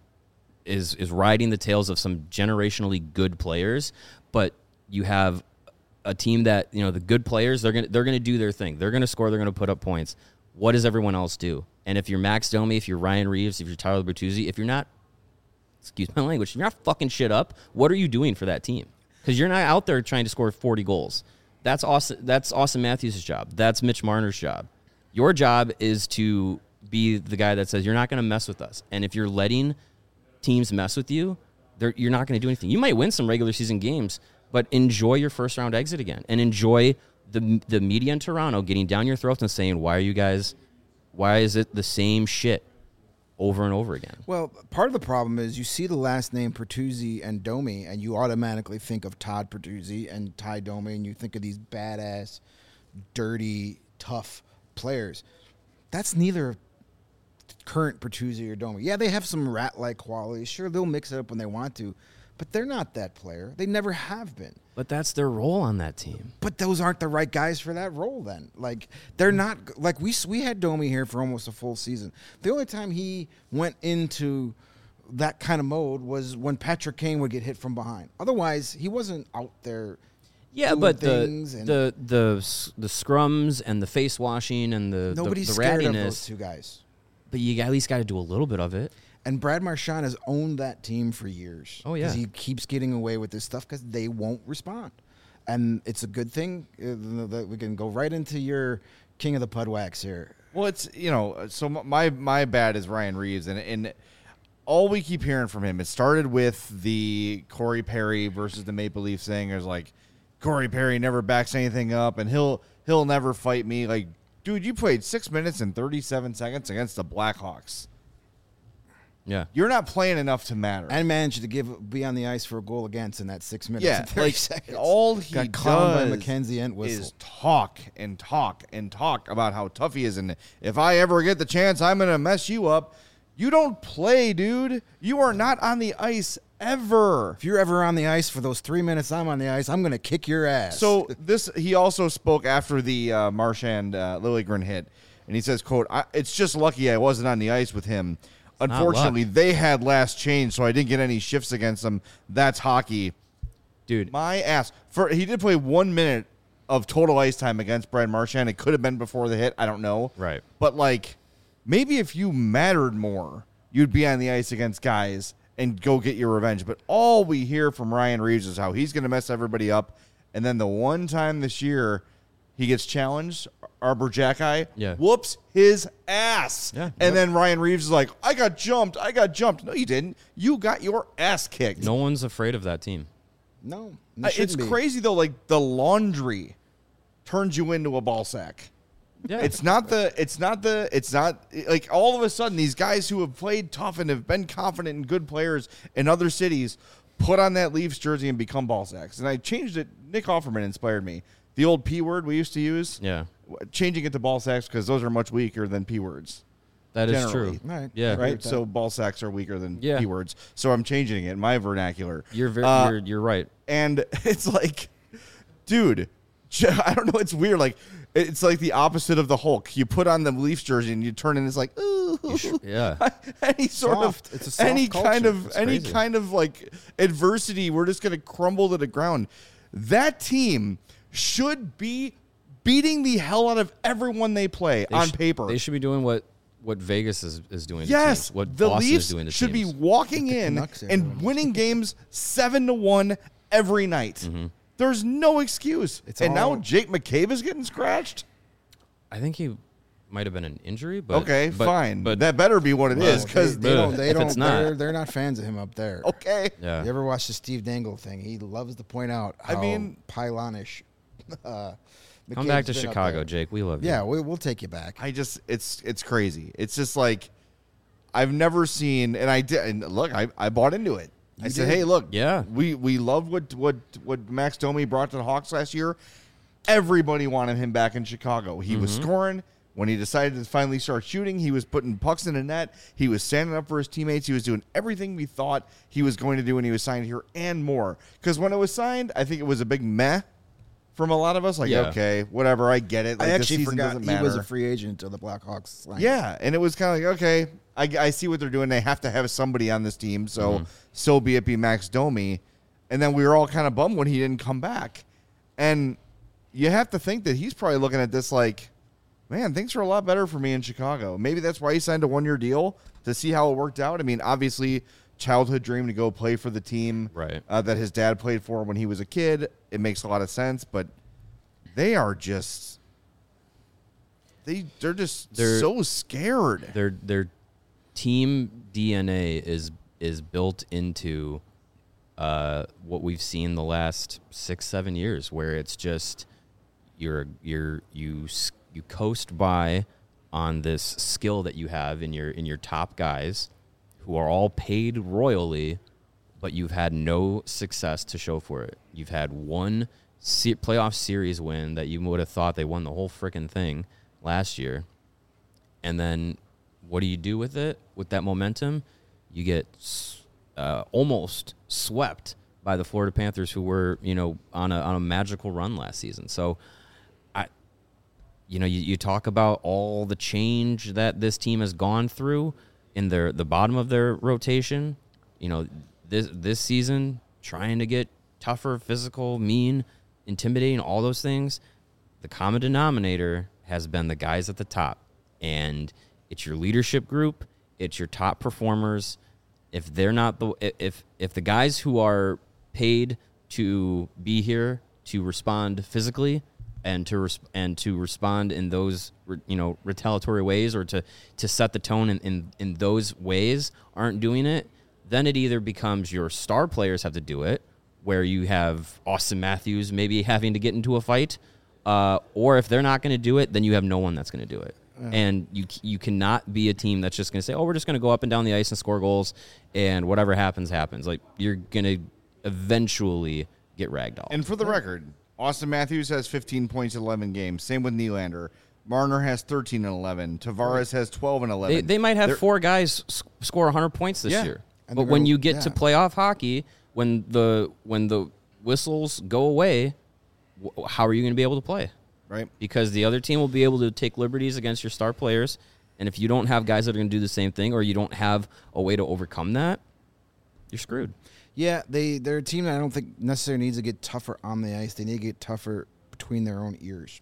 is is riding the tails of some generationally good players, but you have a team that, you know, the good players, they're gonna they're gonna do their thing. They're gonna score. They're gonna put up points. What does everyone else do? And if you're Max Domi, if you're Ryan Reeves, if you're Tyler Bertuzzi, if you're not, excuse my language, if you're not fucking shit up, what are you doing for that team? Because you're not out there trying to score forty goals. That's Austin. That's Austin Matthews' job. That's Mitch Marner's job. Your job is to be the guy that says you're not going to mess with us. And if you're letting teams mess with you, you're not going to do anything. You might win some regular season games, but enjoy your first round exit again, and enjoy the the media in Toronto getting down your throats and saying, "Why are you guys? Why is it the same shit over and over again?" Well, part of the problem is you see the last name Bertuzzi and Domi, and you automatically think of Todd Bertuzzi and Ty Domi, and you think of these badass, dirty, tough players. That's neither current Bertuzzi or Domi. Yeah, they have some rat-like qualities. Sure, they'll mix it up when they want to, but they're not that player. They never have been. But that's their role on that team. But those aren't the right guys for that role then. Like, they're not – like, we we had Domi here for almost a full season. The only time he went into that kind of mode was when Patrick Kane would get hit from behind. Otherwise, he wasn't out there Yeah, doing but the, things and the the the scrums and the face washing and the, nobody's the, the scared rattiness. of those two guys. But you at least got to do a little bit of it. And Brad Marchand has owned that team for years. Oh, yeah. Because he keeps getting away with this stuff because they won't respond. And it's a good thing uh, that we can go right into your king of the Pudwax here. Well, it's, you know, so my my bad is Ryan Reeves, and and all we keep hearing from him, it started with the Corey Perry versus the Maple Leafs thing. There's like, Corey Perry never backs anything up, and he'll he'll never fight me. Like, dude, you played six minutes and thirty-seven seconds against the Blackhawks. Yeah. You're not playing enough to matter. And managed to give be on the ice for a goal against in that six minutes Yeah, and thirty like, seconds. all he Got clowned by does Mackenzie Entwistle. is talk and talk and talk about how tough he is. And if I ever get the chance, I'm going to mess you up. You don't play, dude. You are not on the ice ever. If you're ever on the ice for those three minutes I'm on the ice, I'm going to kick your ass. So this, he also spoke after the uh, Marchand uh, Liljegren hit, and he says, quote, I, it's just lucky I wasn't on the ice with him. Unfortunately, they had last change, so I didn't get any shifts against them. That's hockey. Dude. My ass. For He did play one minute of total ice time against Brad Marchand. It could have been before the hit. I don't know. Right. But, like, maybe if you mattered more, you'd be on the ice against guys and go get your revenge. But all we hear from Ryan Reeves is how he's going to mess everybody up. And then the one time this year he gets challenged. Arbor Jackeye Yeah. whoops his ass. Yeah. And Yep. then Ryan Reeves is like, I got jumped. I got jumped. No, you didn't. You got your ass kicked. No one's afraid of that team. No, Uh, it's crazy, though. Like, the laundry turns you into a ball sack. Yeah. It's not the, it's not the, it's not, like, all of a sudden, these guys who have played tough and have been confident and good players in other cities put on that Leafs jersey and become ball sacks. And I changed it. Nick Offerman inspired me. The old P word we used to use. Yeah. Changing it to ball sacks because those are much weaker than P words. That is Generally. true. Right. Yeah. agree Right? with that. So ball sacks are weaker than Yeah. P words. So I'm changing it in my vernacular. You're very, Uh, you're, you're right. and it's like, dude, I don't know. It's weird. Like, it's like the opposite of the Hulk. You put on the Leafs jersey and you turn and it's like, ooh, Yeah. any sort Soft. of, It's a soft any kind culture. of, It's any crazy. kind of like adversity, we're just gonna crumble to the ground. That team should be beating the hell out of everyone they play They on sh- paper. They should be doing what, what Vegas is, is doing to Yes, teams. What the Boston Leafs is doing to should teams. be walking The in Canucks, and everyone. winning games seven to one every night. Mm-hmm. There's no excuse. It's and all- now Jake McCabe is getting scratched. I think he might have been an injury, but Okay, but, fine, But that better be what it No, is they, because they don't. They if don't. it's not- They're, they're not fans of him up there. okay, yeah, You ever watch the Steve Dangle thing? He loves to point out I how mean- pylonish. Uh, come back to McCabe's been up Chicago, there. Jake. We love you. Yeah, we, we'll take you back. I just it's it's crazy. It's just like I've never seen, and I did. And look, I, I bought into it. I You said, did. hey, look, Yeah. we we love what what what Max Domi brought to the Hawks last year. Everybody wanted him back in Chicago. He was scoring. When he decided to finally start shooting, he was putting pucks in the net. He was standing up for his teammates. He was doing everything we thought he was going to do when he was signed here and more. Because when it was signed, I think it was a big meh from a lot of us. Like, Yeah. okay, whatever, I get it. Like, I the actually season forgot doesn't he matter. was a free agent until the Blackhawks signed. Yeah, and it was kind of like, okay, I, I see what they're doing. They have to have somebody on this team, so so be it be Max Domi. And then we were all kind of bummed when he didn't come back. And you have to think that he's probably looking at this like, man, things are a lot better for me in Chicago. Maybe that's why he signed a one-year deal to see how it worked out. I mean, obviously, childhood dream to go play for the team Right. uh, that his dad played for when he was a kid. It makes a lot of sense, but they are just they they're just They're- so scared. Their their team D N A is is built into uh, what we've seen the last six seven years, where it's just you're you're you s- you coast by on this skill that you have in your in your top guys, who are all paid royally, but you've had no success to show for it. You've had one se- playoff series win that you would have thought they won the whole freaking thing last year. And then what do you do with it? With that momentum, you get s- uh, almost swept by the Florida Panthers, who were, you know, on a on a magical run last season. So I you know, you, you talk about all the change that this team has gone through in their the bottom of their rotation. You know, this this season, trying to get tougher, physical, mean, intimidating, all those things. The common denominator has been the guys at the top, and it's your leadership group, it's your top performers. If they're not the if if the guys who are paid to be here to respond physically and to res- and to respond in those re- you know retaliatory ways, or to to set the tone in, in in those ways, aren't doing it, then it either becomes your star players have to do it, where you have Austin Matthews maybe having to get into a fight, uh, or if they're not going to do it, then you have no one that's going to do it. And you you cannot be a team that's just going to say, oh, we're just going to go up and down the ice and score goals, and whatever happens, happens. Like, you're going to eventually get ragdolled. And for the record, Austin Matthews has fifteen points in eleven games. Same with Nylander. Marner has thirteen and eleven. Tavares has twelve and eleven. They, they might have They're- four guys s- score one hundred points this Yeah. year. And But they're when gonna- you get to yeah. playoff hockey, when the when the whistles go away, wh- how are you going to be able to play? right. Because the other team will be able to take liberties against your star players. And if you don't have guys that are going to do the same thing, or you don't have a way to overcome that, you're screwed. Yeah, they they're a team that I don't think necessarily needs to get tougher on the ice. They need to get tougher between their own ears.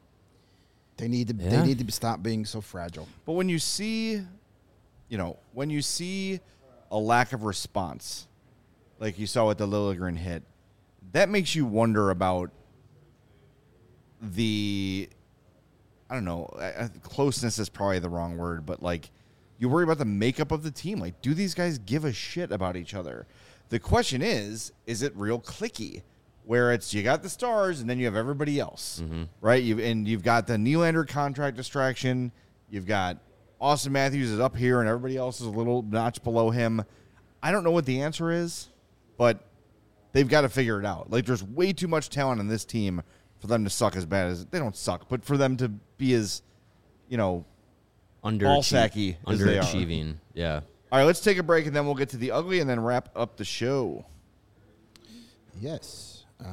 They need to Yeah. they need to stop being so fragile. But when you see, you know, when you see a lack of response, like you saw with the Liljegren hit, that makes you wonder about the, I don't know, uh, closeness is probably the wrong word, but like you worry about the makeup of the team. Like, do these guys give a shit about each other? The question is, is it real cliquey? Where it's you got the stars and then you have everybody else, mm-hmm. right? You've and you've got the Nylander contract distraction. You've got Austin Matthews is up here and everybody else is a little notch below him. I don't know what the answer is, but they've got to figure it out. Like, there's way too much talent on this team for them to suck as bad as they don't suck, but for them to be as, you know, ball-sacky as they are. Underachieving, yeah. All right, let's take a break and then we'll get to the ugly and then wrap up the show. Yes.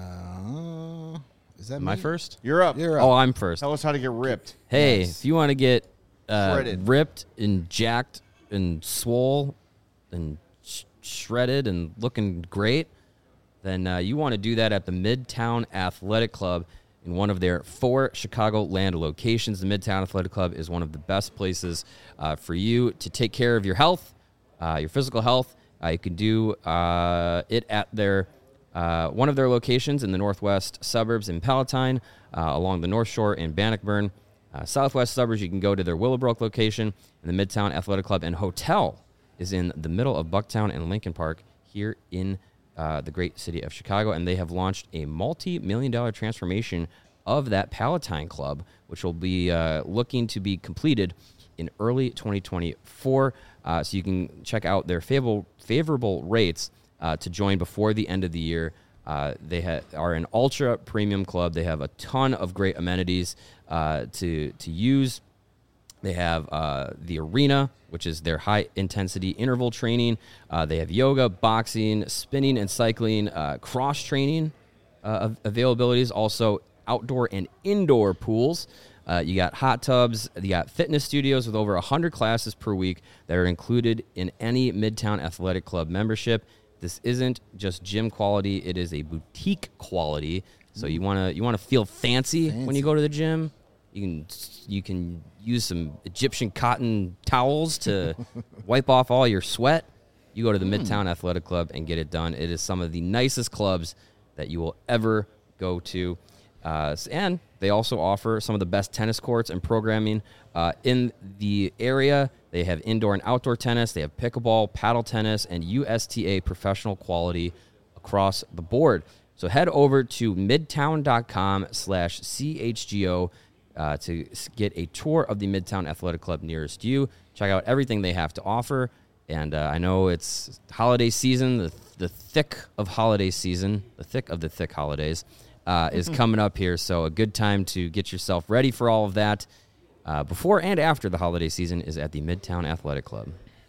Uh, is that Am me? I first? You're up. You're up. Oh, I'm first. Tell us how to get ripped. Hey, Yes. if you want to get uh, Shredded. ripped and jacked and swole and sh- shredded and looking great, then uh, you want to do that at the Midtown Athletic Club in one of their four Chicagoland locations. The Midtown Athletic Club is one of the best places uh, for you to take care of your health, uh, your physical health. Uh, you can do uh, it at their uh, one of their locations in the northwest suburbs in Palatine, uh, along the North Shore in Bannockburn. Uh, southwest suburbs, you can go to their Willowbrook location, and the Midtown Athletic Club and Hotel is in the middle of Bucktown and Lincoln Park here in uh, the great city of Chicago, and they have launched a multi-million dollar transformation of that Palatine Club, which will be uh, looking to be completed in early twenty twenty-four. Uh, so you can check out their favorable favorable rates uh, to join before the end of the year. Uh, they ha- are an ultra premium club. They have a ton of great amenities uh, to to use. They have uh, the arena, which is their high-intensity interval training. Uh, they have yoga, boxing, spinning and cycling, uh, cross-training uh, availabilities, also outdoor and indoor pools. Uh, you got hot tubs. You got fitness studios with over one hundred classes per week that are included in any Midtown Athletic Club membership. This isn't just gym quality. It is a boutique quality. So you want to you want to feel fancy, fancy when you go to the gym. You can you can use some Egyptian cotton towels to wipe off all your sweat. You go to the mm. Midtown Athletic Club and get it done. It is some of the nicest clubs that you will ever go to. Uh, and they also offer some of the best tennis courts and programming uh, in the area. They have indoor and outdoor tennis. They have pickleball, paddle tennis, and U S T A professional quality across the board. So head over to midtown.com slash CHGO uh, to get a tour of the Midtown Athletic Club nearest you. Check out everything they have to offer. And uh, I know it's holiday season, the, the thick of holiday season, the thick of the thick holidays. Uh, is coming up here, so a good time to get yourself ready for all of that uh, before and after the holiday season is at the Midtown Athletic Club.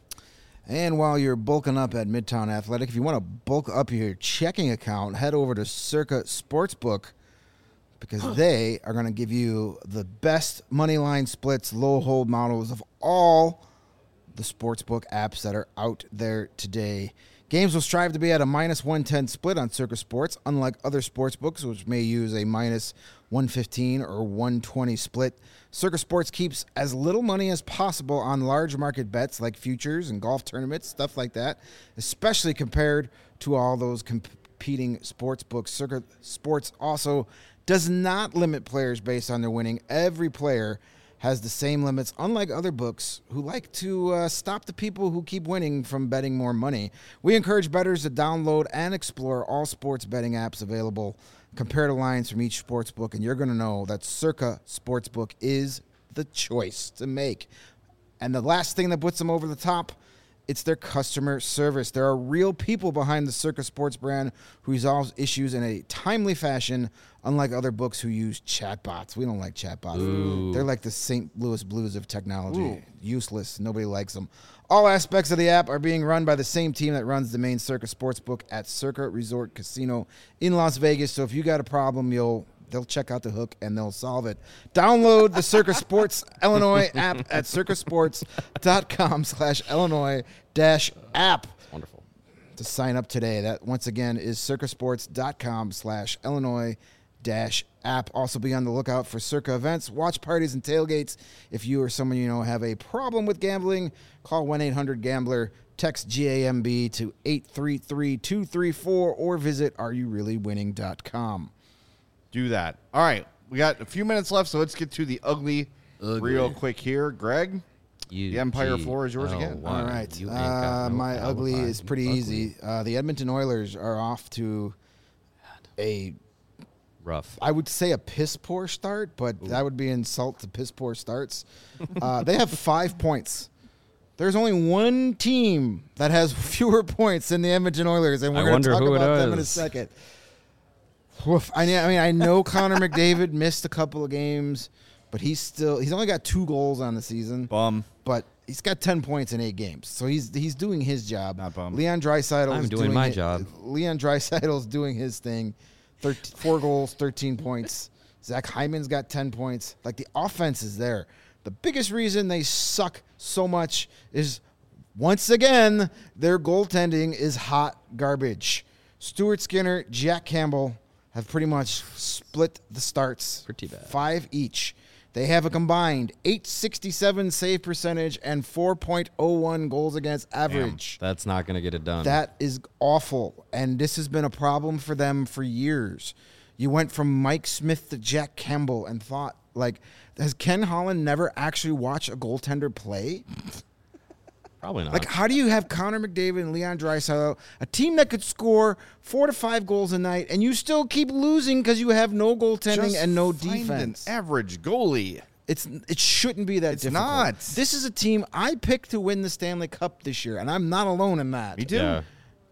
And while you're bulking up at Midtown Athletic, if you want to bulk up your checking account, head over to Circa Sportsbook because they are going to give you the best money line splits, low hold models of all the sportsbook apps that are out there today. Games will strive to be at a minus one ten split on Circa Sports, unlike other sports books, which may use a minus one fifteen or one twenty split. Circa Sports keeps as little money as possible on large market bets like futures and golf tournaments, stuff like that, especially compared to all those competing sports books. Circa Sports also does not limit players based on their winning. Every player has the same limits, unlike other books who like to uh, stop the people who keep winning from betting more money. We encourage bettors to download and explore all sports betting apps available, compare the lines from each sports book, and you're going to know that Circa Sportsbook is the choice to make. And the last thing that puts them over the top, it's their customer service. There are real people behind the Circa Sports brand who resolve issues in a timely fashion, unlike other books who use chatbots. We don't like chatbots. Ooh. They're like the Saint Louis Blues of technology. Ooh. Useless. Nobody likes them. All aspects of the app are being run by the same team that runs the main Circa Sportsbook at Circa Resort Casino in Las Vegas. So if you got a problem, you'll they'll check out the hook and they'll solve it. Download the Circa Sports Illinois app at circasports.com slash Illinois dash app. Wonderful. To sign up today. That, once again, is circasports.com slash Illinois dash app. Also be on the lookout for Circa events, watch parties, and tailgates. If you or someone you know have a problem with gambling, call one eight hundred gambler, text G A M B to eight three three two three four, or visit are you really winning dot com. Do that. All right. we got a few minutes left, so let's get to the ugly, Ugly. real quick here. Greg, U the Empire G floor is yours L again. Y. All right. You ain't got Uh, no my ugly alibi. is pretty Ugly. easy. Uh, the Edmonton Oilers are off to a, Rough. I would say a piss poor start, but that would be insult to piss poor starts. Uh, they have five points. There's only one team that has fewer points than the Edmonton Oilers, and we're I going to wonder talk who it about them in a is. second. Woof. I mean, I mean, I know Connor McDavid missed a couple of games, but he's still he's only got two goals on the season. Bum. But he's got ten points in eight games, so he's he's doing his job. Not bummed. Leon Draisaitl I'm is doing my it- job. Leon Draisaitl's doing his thing. thirteen, four goals, thirteen points. Zach Hyman's got ten points. Like, the offense is there. The biggest reason they suck so much is, once again, their goaltending is hot garbage. Stuart Skinner, Jack Campbell have pretty much split the starts. Pretty bad. Five each. They have a combined eight sixty-seven save percentage and four point oh one goals against average. That's not going to get it done. That is awful, and this has been a problem for them for years. You went from Mike Smith to Jack Campbell and thought, like, has Ken Holland never actually watched a goaltender play? Probably not. Like, how do you have Connor McDavid and Leon Draisaitl, a team that could score four to five goals a night, and you still keep losing because you have no goaltending Just and no find defense? an average goalie. It's it shouldn't be that It's difficult. not. This is a team I picked to win the Stanley Cup this year, and I'm not alone in that. Me too. yeah.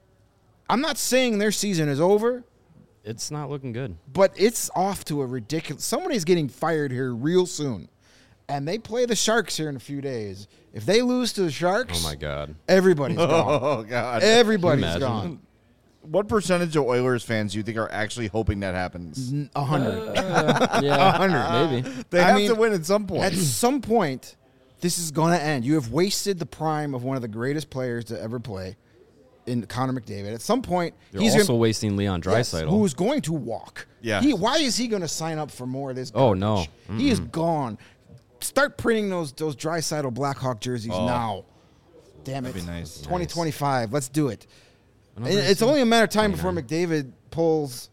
I'm not saying their season is over, It's not looking good. but it's off to a ridiculous. Somebody's getting fired here real soon, and they play the Sharks here in a few days. If they lose to the Sharks, Oh, my God. everybody's gone. Oh God. Everybody's Can you imagine? gone. What percentage of Oilers fans do you think are actually hoping that happens? A hundred. Yeah. hundred. Maybe. They I have mean, to win at some point. At some point, this is going to end. You have wasted the prime of one of the greatest players to ever play in Connor McDavid. At some point, You're he's also gonna, wasting Leon yes, Draisaitl. who's going to walk. Yeah. He, why is he going to sign up for more of this? Oh, garbage? no. He is gone. Start printing those those Draisaitl Blackhawk jerseys Oh. now. Damn it. That'd be nice. twenty twenty-five. Let's do it. And Another it's only a matter of time before twenty-nine. McDavid pulls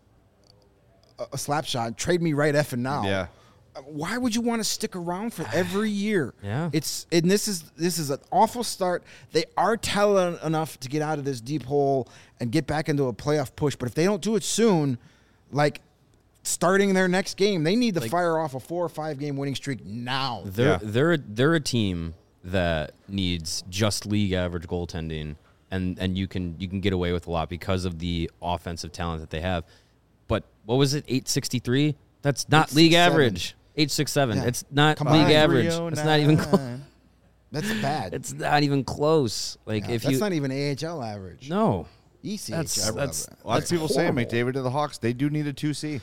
a, a slap shot. Trade me right effing now. Yeah. Why would you want to stick around for every year? Yeah. It's and this is this is an awful start. They are talented enough to get out of this deep hole and get back into a playoff push. But if they don't do it soon, like starting their next game, they need to fire off a four or five game winning streak now. They're Yeah. they're they're a team that needs just league average goaltending, and and you can you can get away with a lot because of the offensive talent that they have. But what was it? eight sixty-three? That's not eight league sixty-seven. average. eight sixty-seven. Yeah. It's not Combined. league average. It's not even close. That's bad. It's not even close. Like Yeah, if that's you not even A H L average. no, E C H L That's- average. that's- A lot of people saying horrible. McDavid to the Hawks. They do need a two C.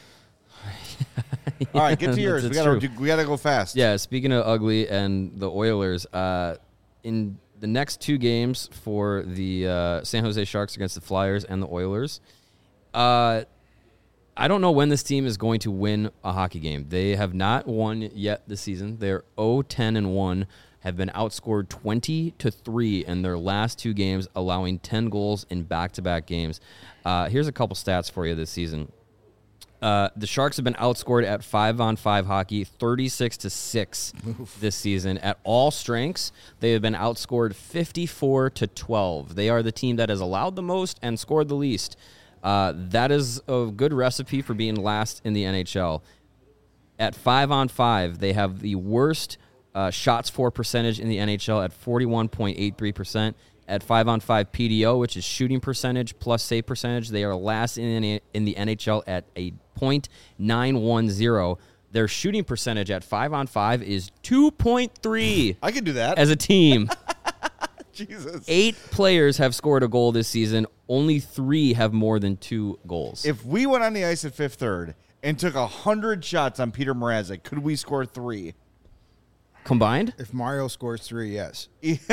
All right, get to yours. We That's gotta true. do, we gotta go fast. Yeah, speaking of ugly and the Oilers, uh, in the next two games for the uh, San Jose Sharks against the Flyers and the Oilers, uh, I don't know when this team is going to win a hockey game. They have not won yet this season. They're oh ten and one, have been outscored twenty to three in their last two games, allowing ten goals in back-to-back games. Uh, here's a couple stats for you this season. Uh, the Sharks have been outscored at five-on-five hockey, thirty-six to six this season. At all strengths, they have been outscored fifty-four to twelve. They are the team that has allowed the most and scored the least. Uh, that is a good recipe for being last in the N H L. At five-on-five, they have the worst uh, shots for percentage in the N H L at forty-one point eight three percent. At five-on-five P D O, which is shooting percentage plus save percentage, they are last in, in the N H L at a point nine one zero. Their shooting percentage at five-on-five is two point three I can do that. as a team. Jesus. Eight players have scored a goal this season. Only three have more than two goals. If we went on the ice at fifth third and took a hundred shots on Peter Mrazek, could we score three? Combined? If Mario scores three, yes.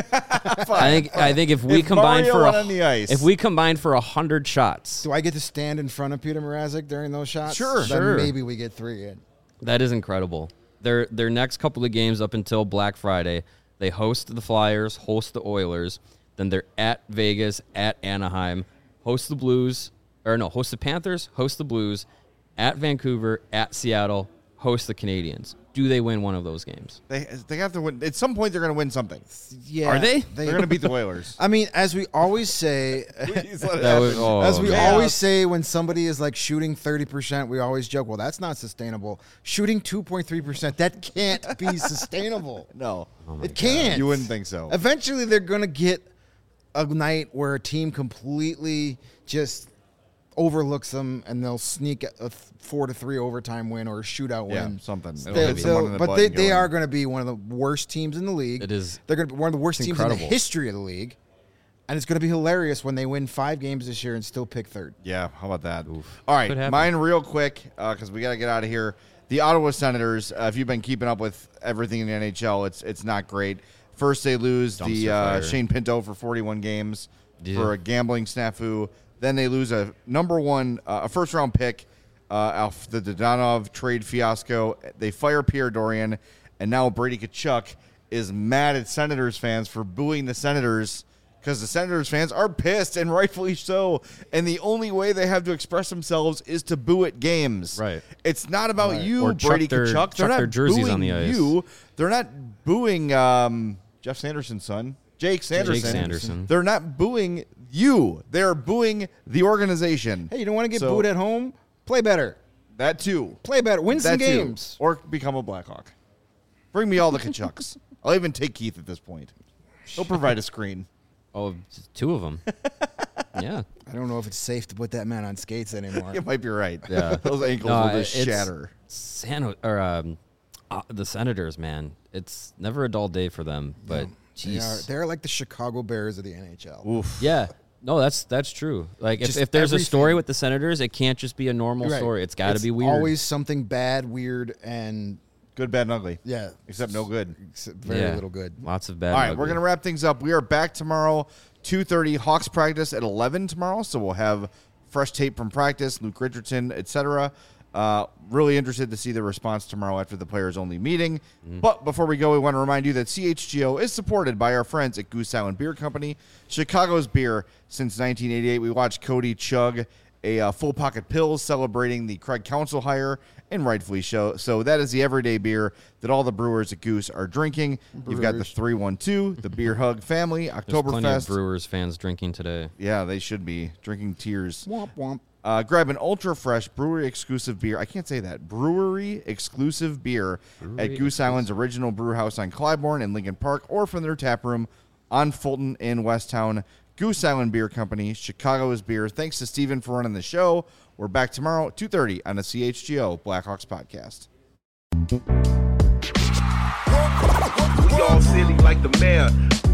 I think I think if we If combined Mario for went a, on the ice. if we combined for a hundred shots, Do I get to stand in front of Peter Mrazek during those shots? Sure. Then Sure. maybe we get three in. that is incredible. Their their next couple of games up until Black Friday, they host the Flyers, host the Oilers, then they're at Vegas, at Anaheim, host the Blues, or no, host the Panthers, host the Blues, at Vancouver, at Seattle, host the Canadiens. Do they win one of those games? They they have to win. At some point, they're going to win something. Yeah, Are they? They're going to beat the Oilers. I mean, as we always say, Please let it That was- happen. oh, as we man. always say, when somebody is like shooting thirty percent, we always joke, well, that's not sustainable. Shooting two point three percent, that can't be sustainable. No, It can't. you wouldn't think so. Eventually, they're going to get a night where a team completely just overlooks them, and they'll sneak a four to three overtime win or a shootout Yeah, win. something. It'll They'll- hit someone in the but butt they, and go they in. are going to be one of the worst teams in the league. It is- They're going to be one of the worst it's teams in incredible. the history of the league. And it's going to be hilarious when they win five games this year and still pick third. Yeah, how about that? Oof. All right, Could happen. mine real quick because we got to get out of here. The Ottawa Senators. Uh, if you've been keeping up with everything in the N H L, it's it's not great. First, they lose Dumpster the uh, fire. Shane Pinto for forty-one games Yeah. for a gambling snafu. Then they lose a number one, uh, a first round pick uh, off the Dodonov trade fiasco. They fire Pierre Dorian, and now Brady Tkachuk is mad at Senators fans for booing the Senators. Because the Senators fans are pissed, and rightfully so. And the only way they have to express themselves is to boo at games. Right. It's not about Right. you, Or chuck Brady their- Tkachuk. chuck They're not their jerseys booing on the ice. you. They're not booing um, Jeff Sanderson's son, Jake Sanderson. Jake Sanderson. They're not booing you. They're booing the organization. Hey, you don't want to get So, booed at home? Play better. That too. Play better. Win some That too. games. Or become a Blackhawk. Bring me all the Tkachuks. I'll even take Keith at this point. He'll provide a screen. Oh, two of them. Yeah. I don't know if it's safe to put that man on skates anymore. You might be right. Yeah. Those ankles No, will just it's shatter. San or um, uh, the Senators, man. It's never a dull day for them. But They are, jeez, they're like the Chicago Bears of the N H L. Oof. yeah. No, that's that's true. Like if, Just if there's a story everything. with the Senators, it can't just be a normal Right. story. It's got to be weird. Always something bad, weird, and Good, bad, and ugly. yeah, Except no good. except very Yeah. little good. Lots of bad. All right, and we're ugly. going to wrap things up. We are back tomorrow, two thirty. Hawks practice at eleven tomorrow, so we'll have fresh tape from practice, Luke Richardson, et cetera. Uh, really interested to see the response tomorrow after the players-only meeting. But before we go, we want to remind you that C H G O is supported by our friends at Goose Island Beer Company, Chicago's beer since nineteen eighty-eight. We watched Cody chug a uh, full pocket pills celebrating the Craig Council hire, and rightfully so. So that is the everyday beer that all the brewers at Goose are drinking. You've got the Brewers. three one two, the Beer Hug Family, There's plenty of Oktoberfest. Brewers fans drinking today. Yeah, they should be drinking tears. Womp womp. Uh, grab an ultra fresh brewery exclusive beer. I can't say that. Brewery exclusive beer at Goose Island's original brew house on Clybourne and Lincoln Park, or from their tap room on Fulton in Westtown. Goose Island Beer Company, Chicago's beer. Thanks to Steven for running the show. We're back tomorrow, two thirty on the C H G O Blackhawks podcast. We all silly like the mayor.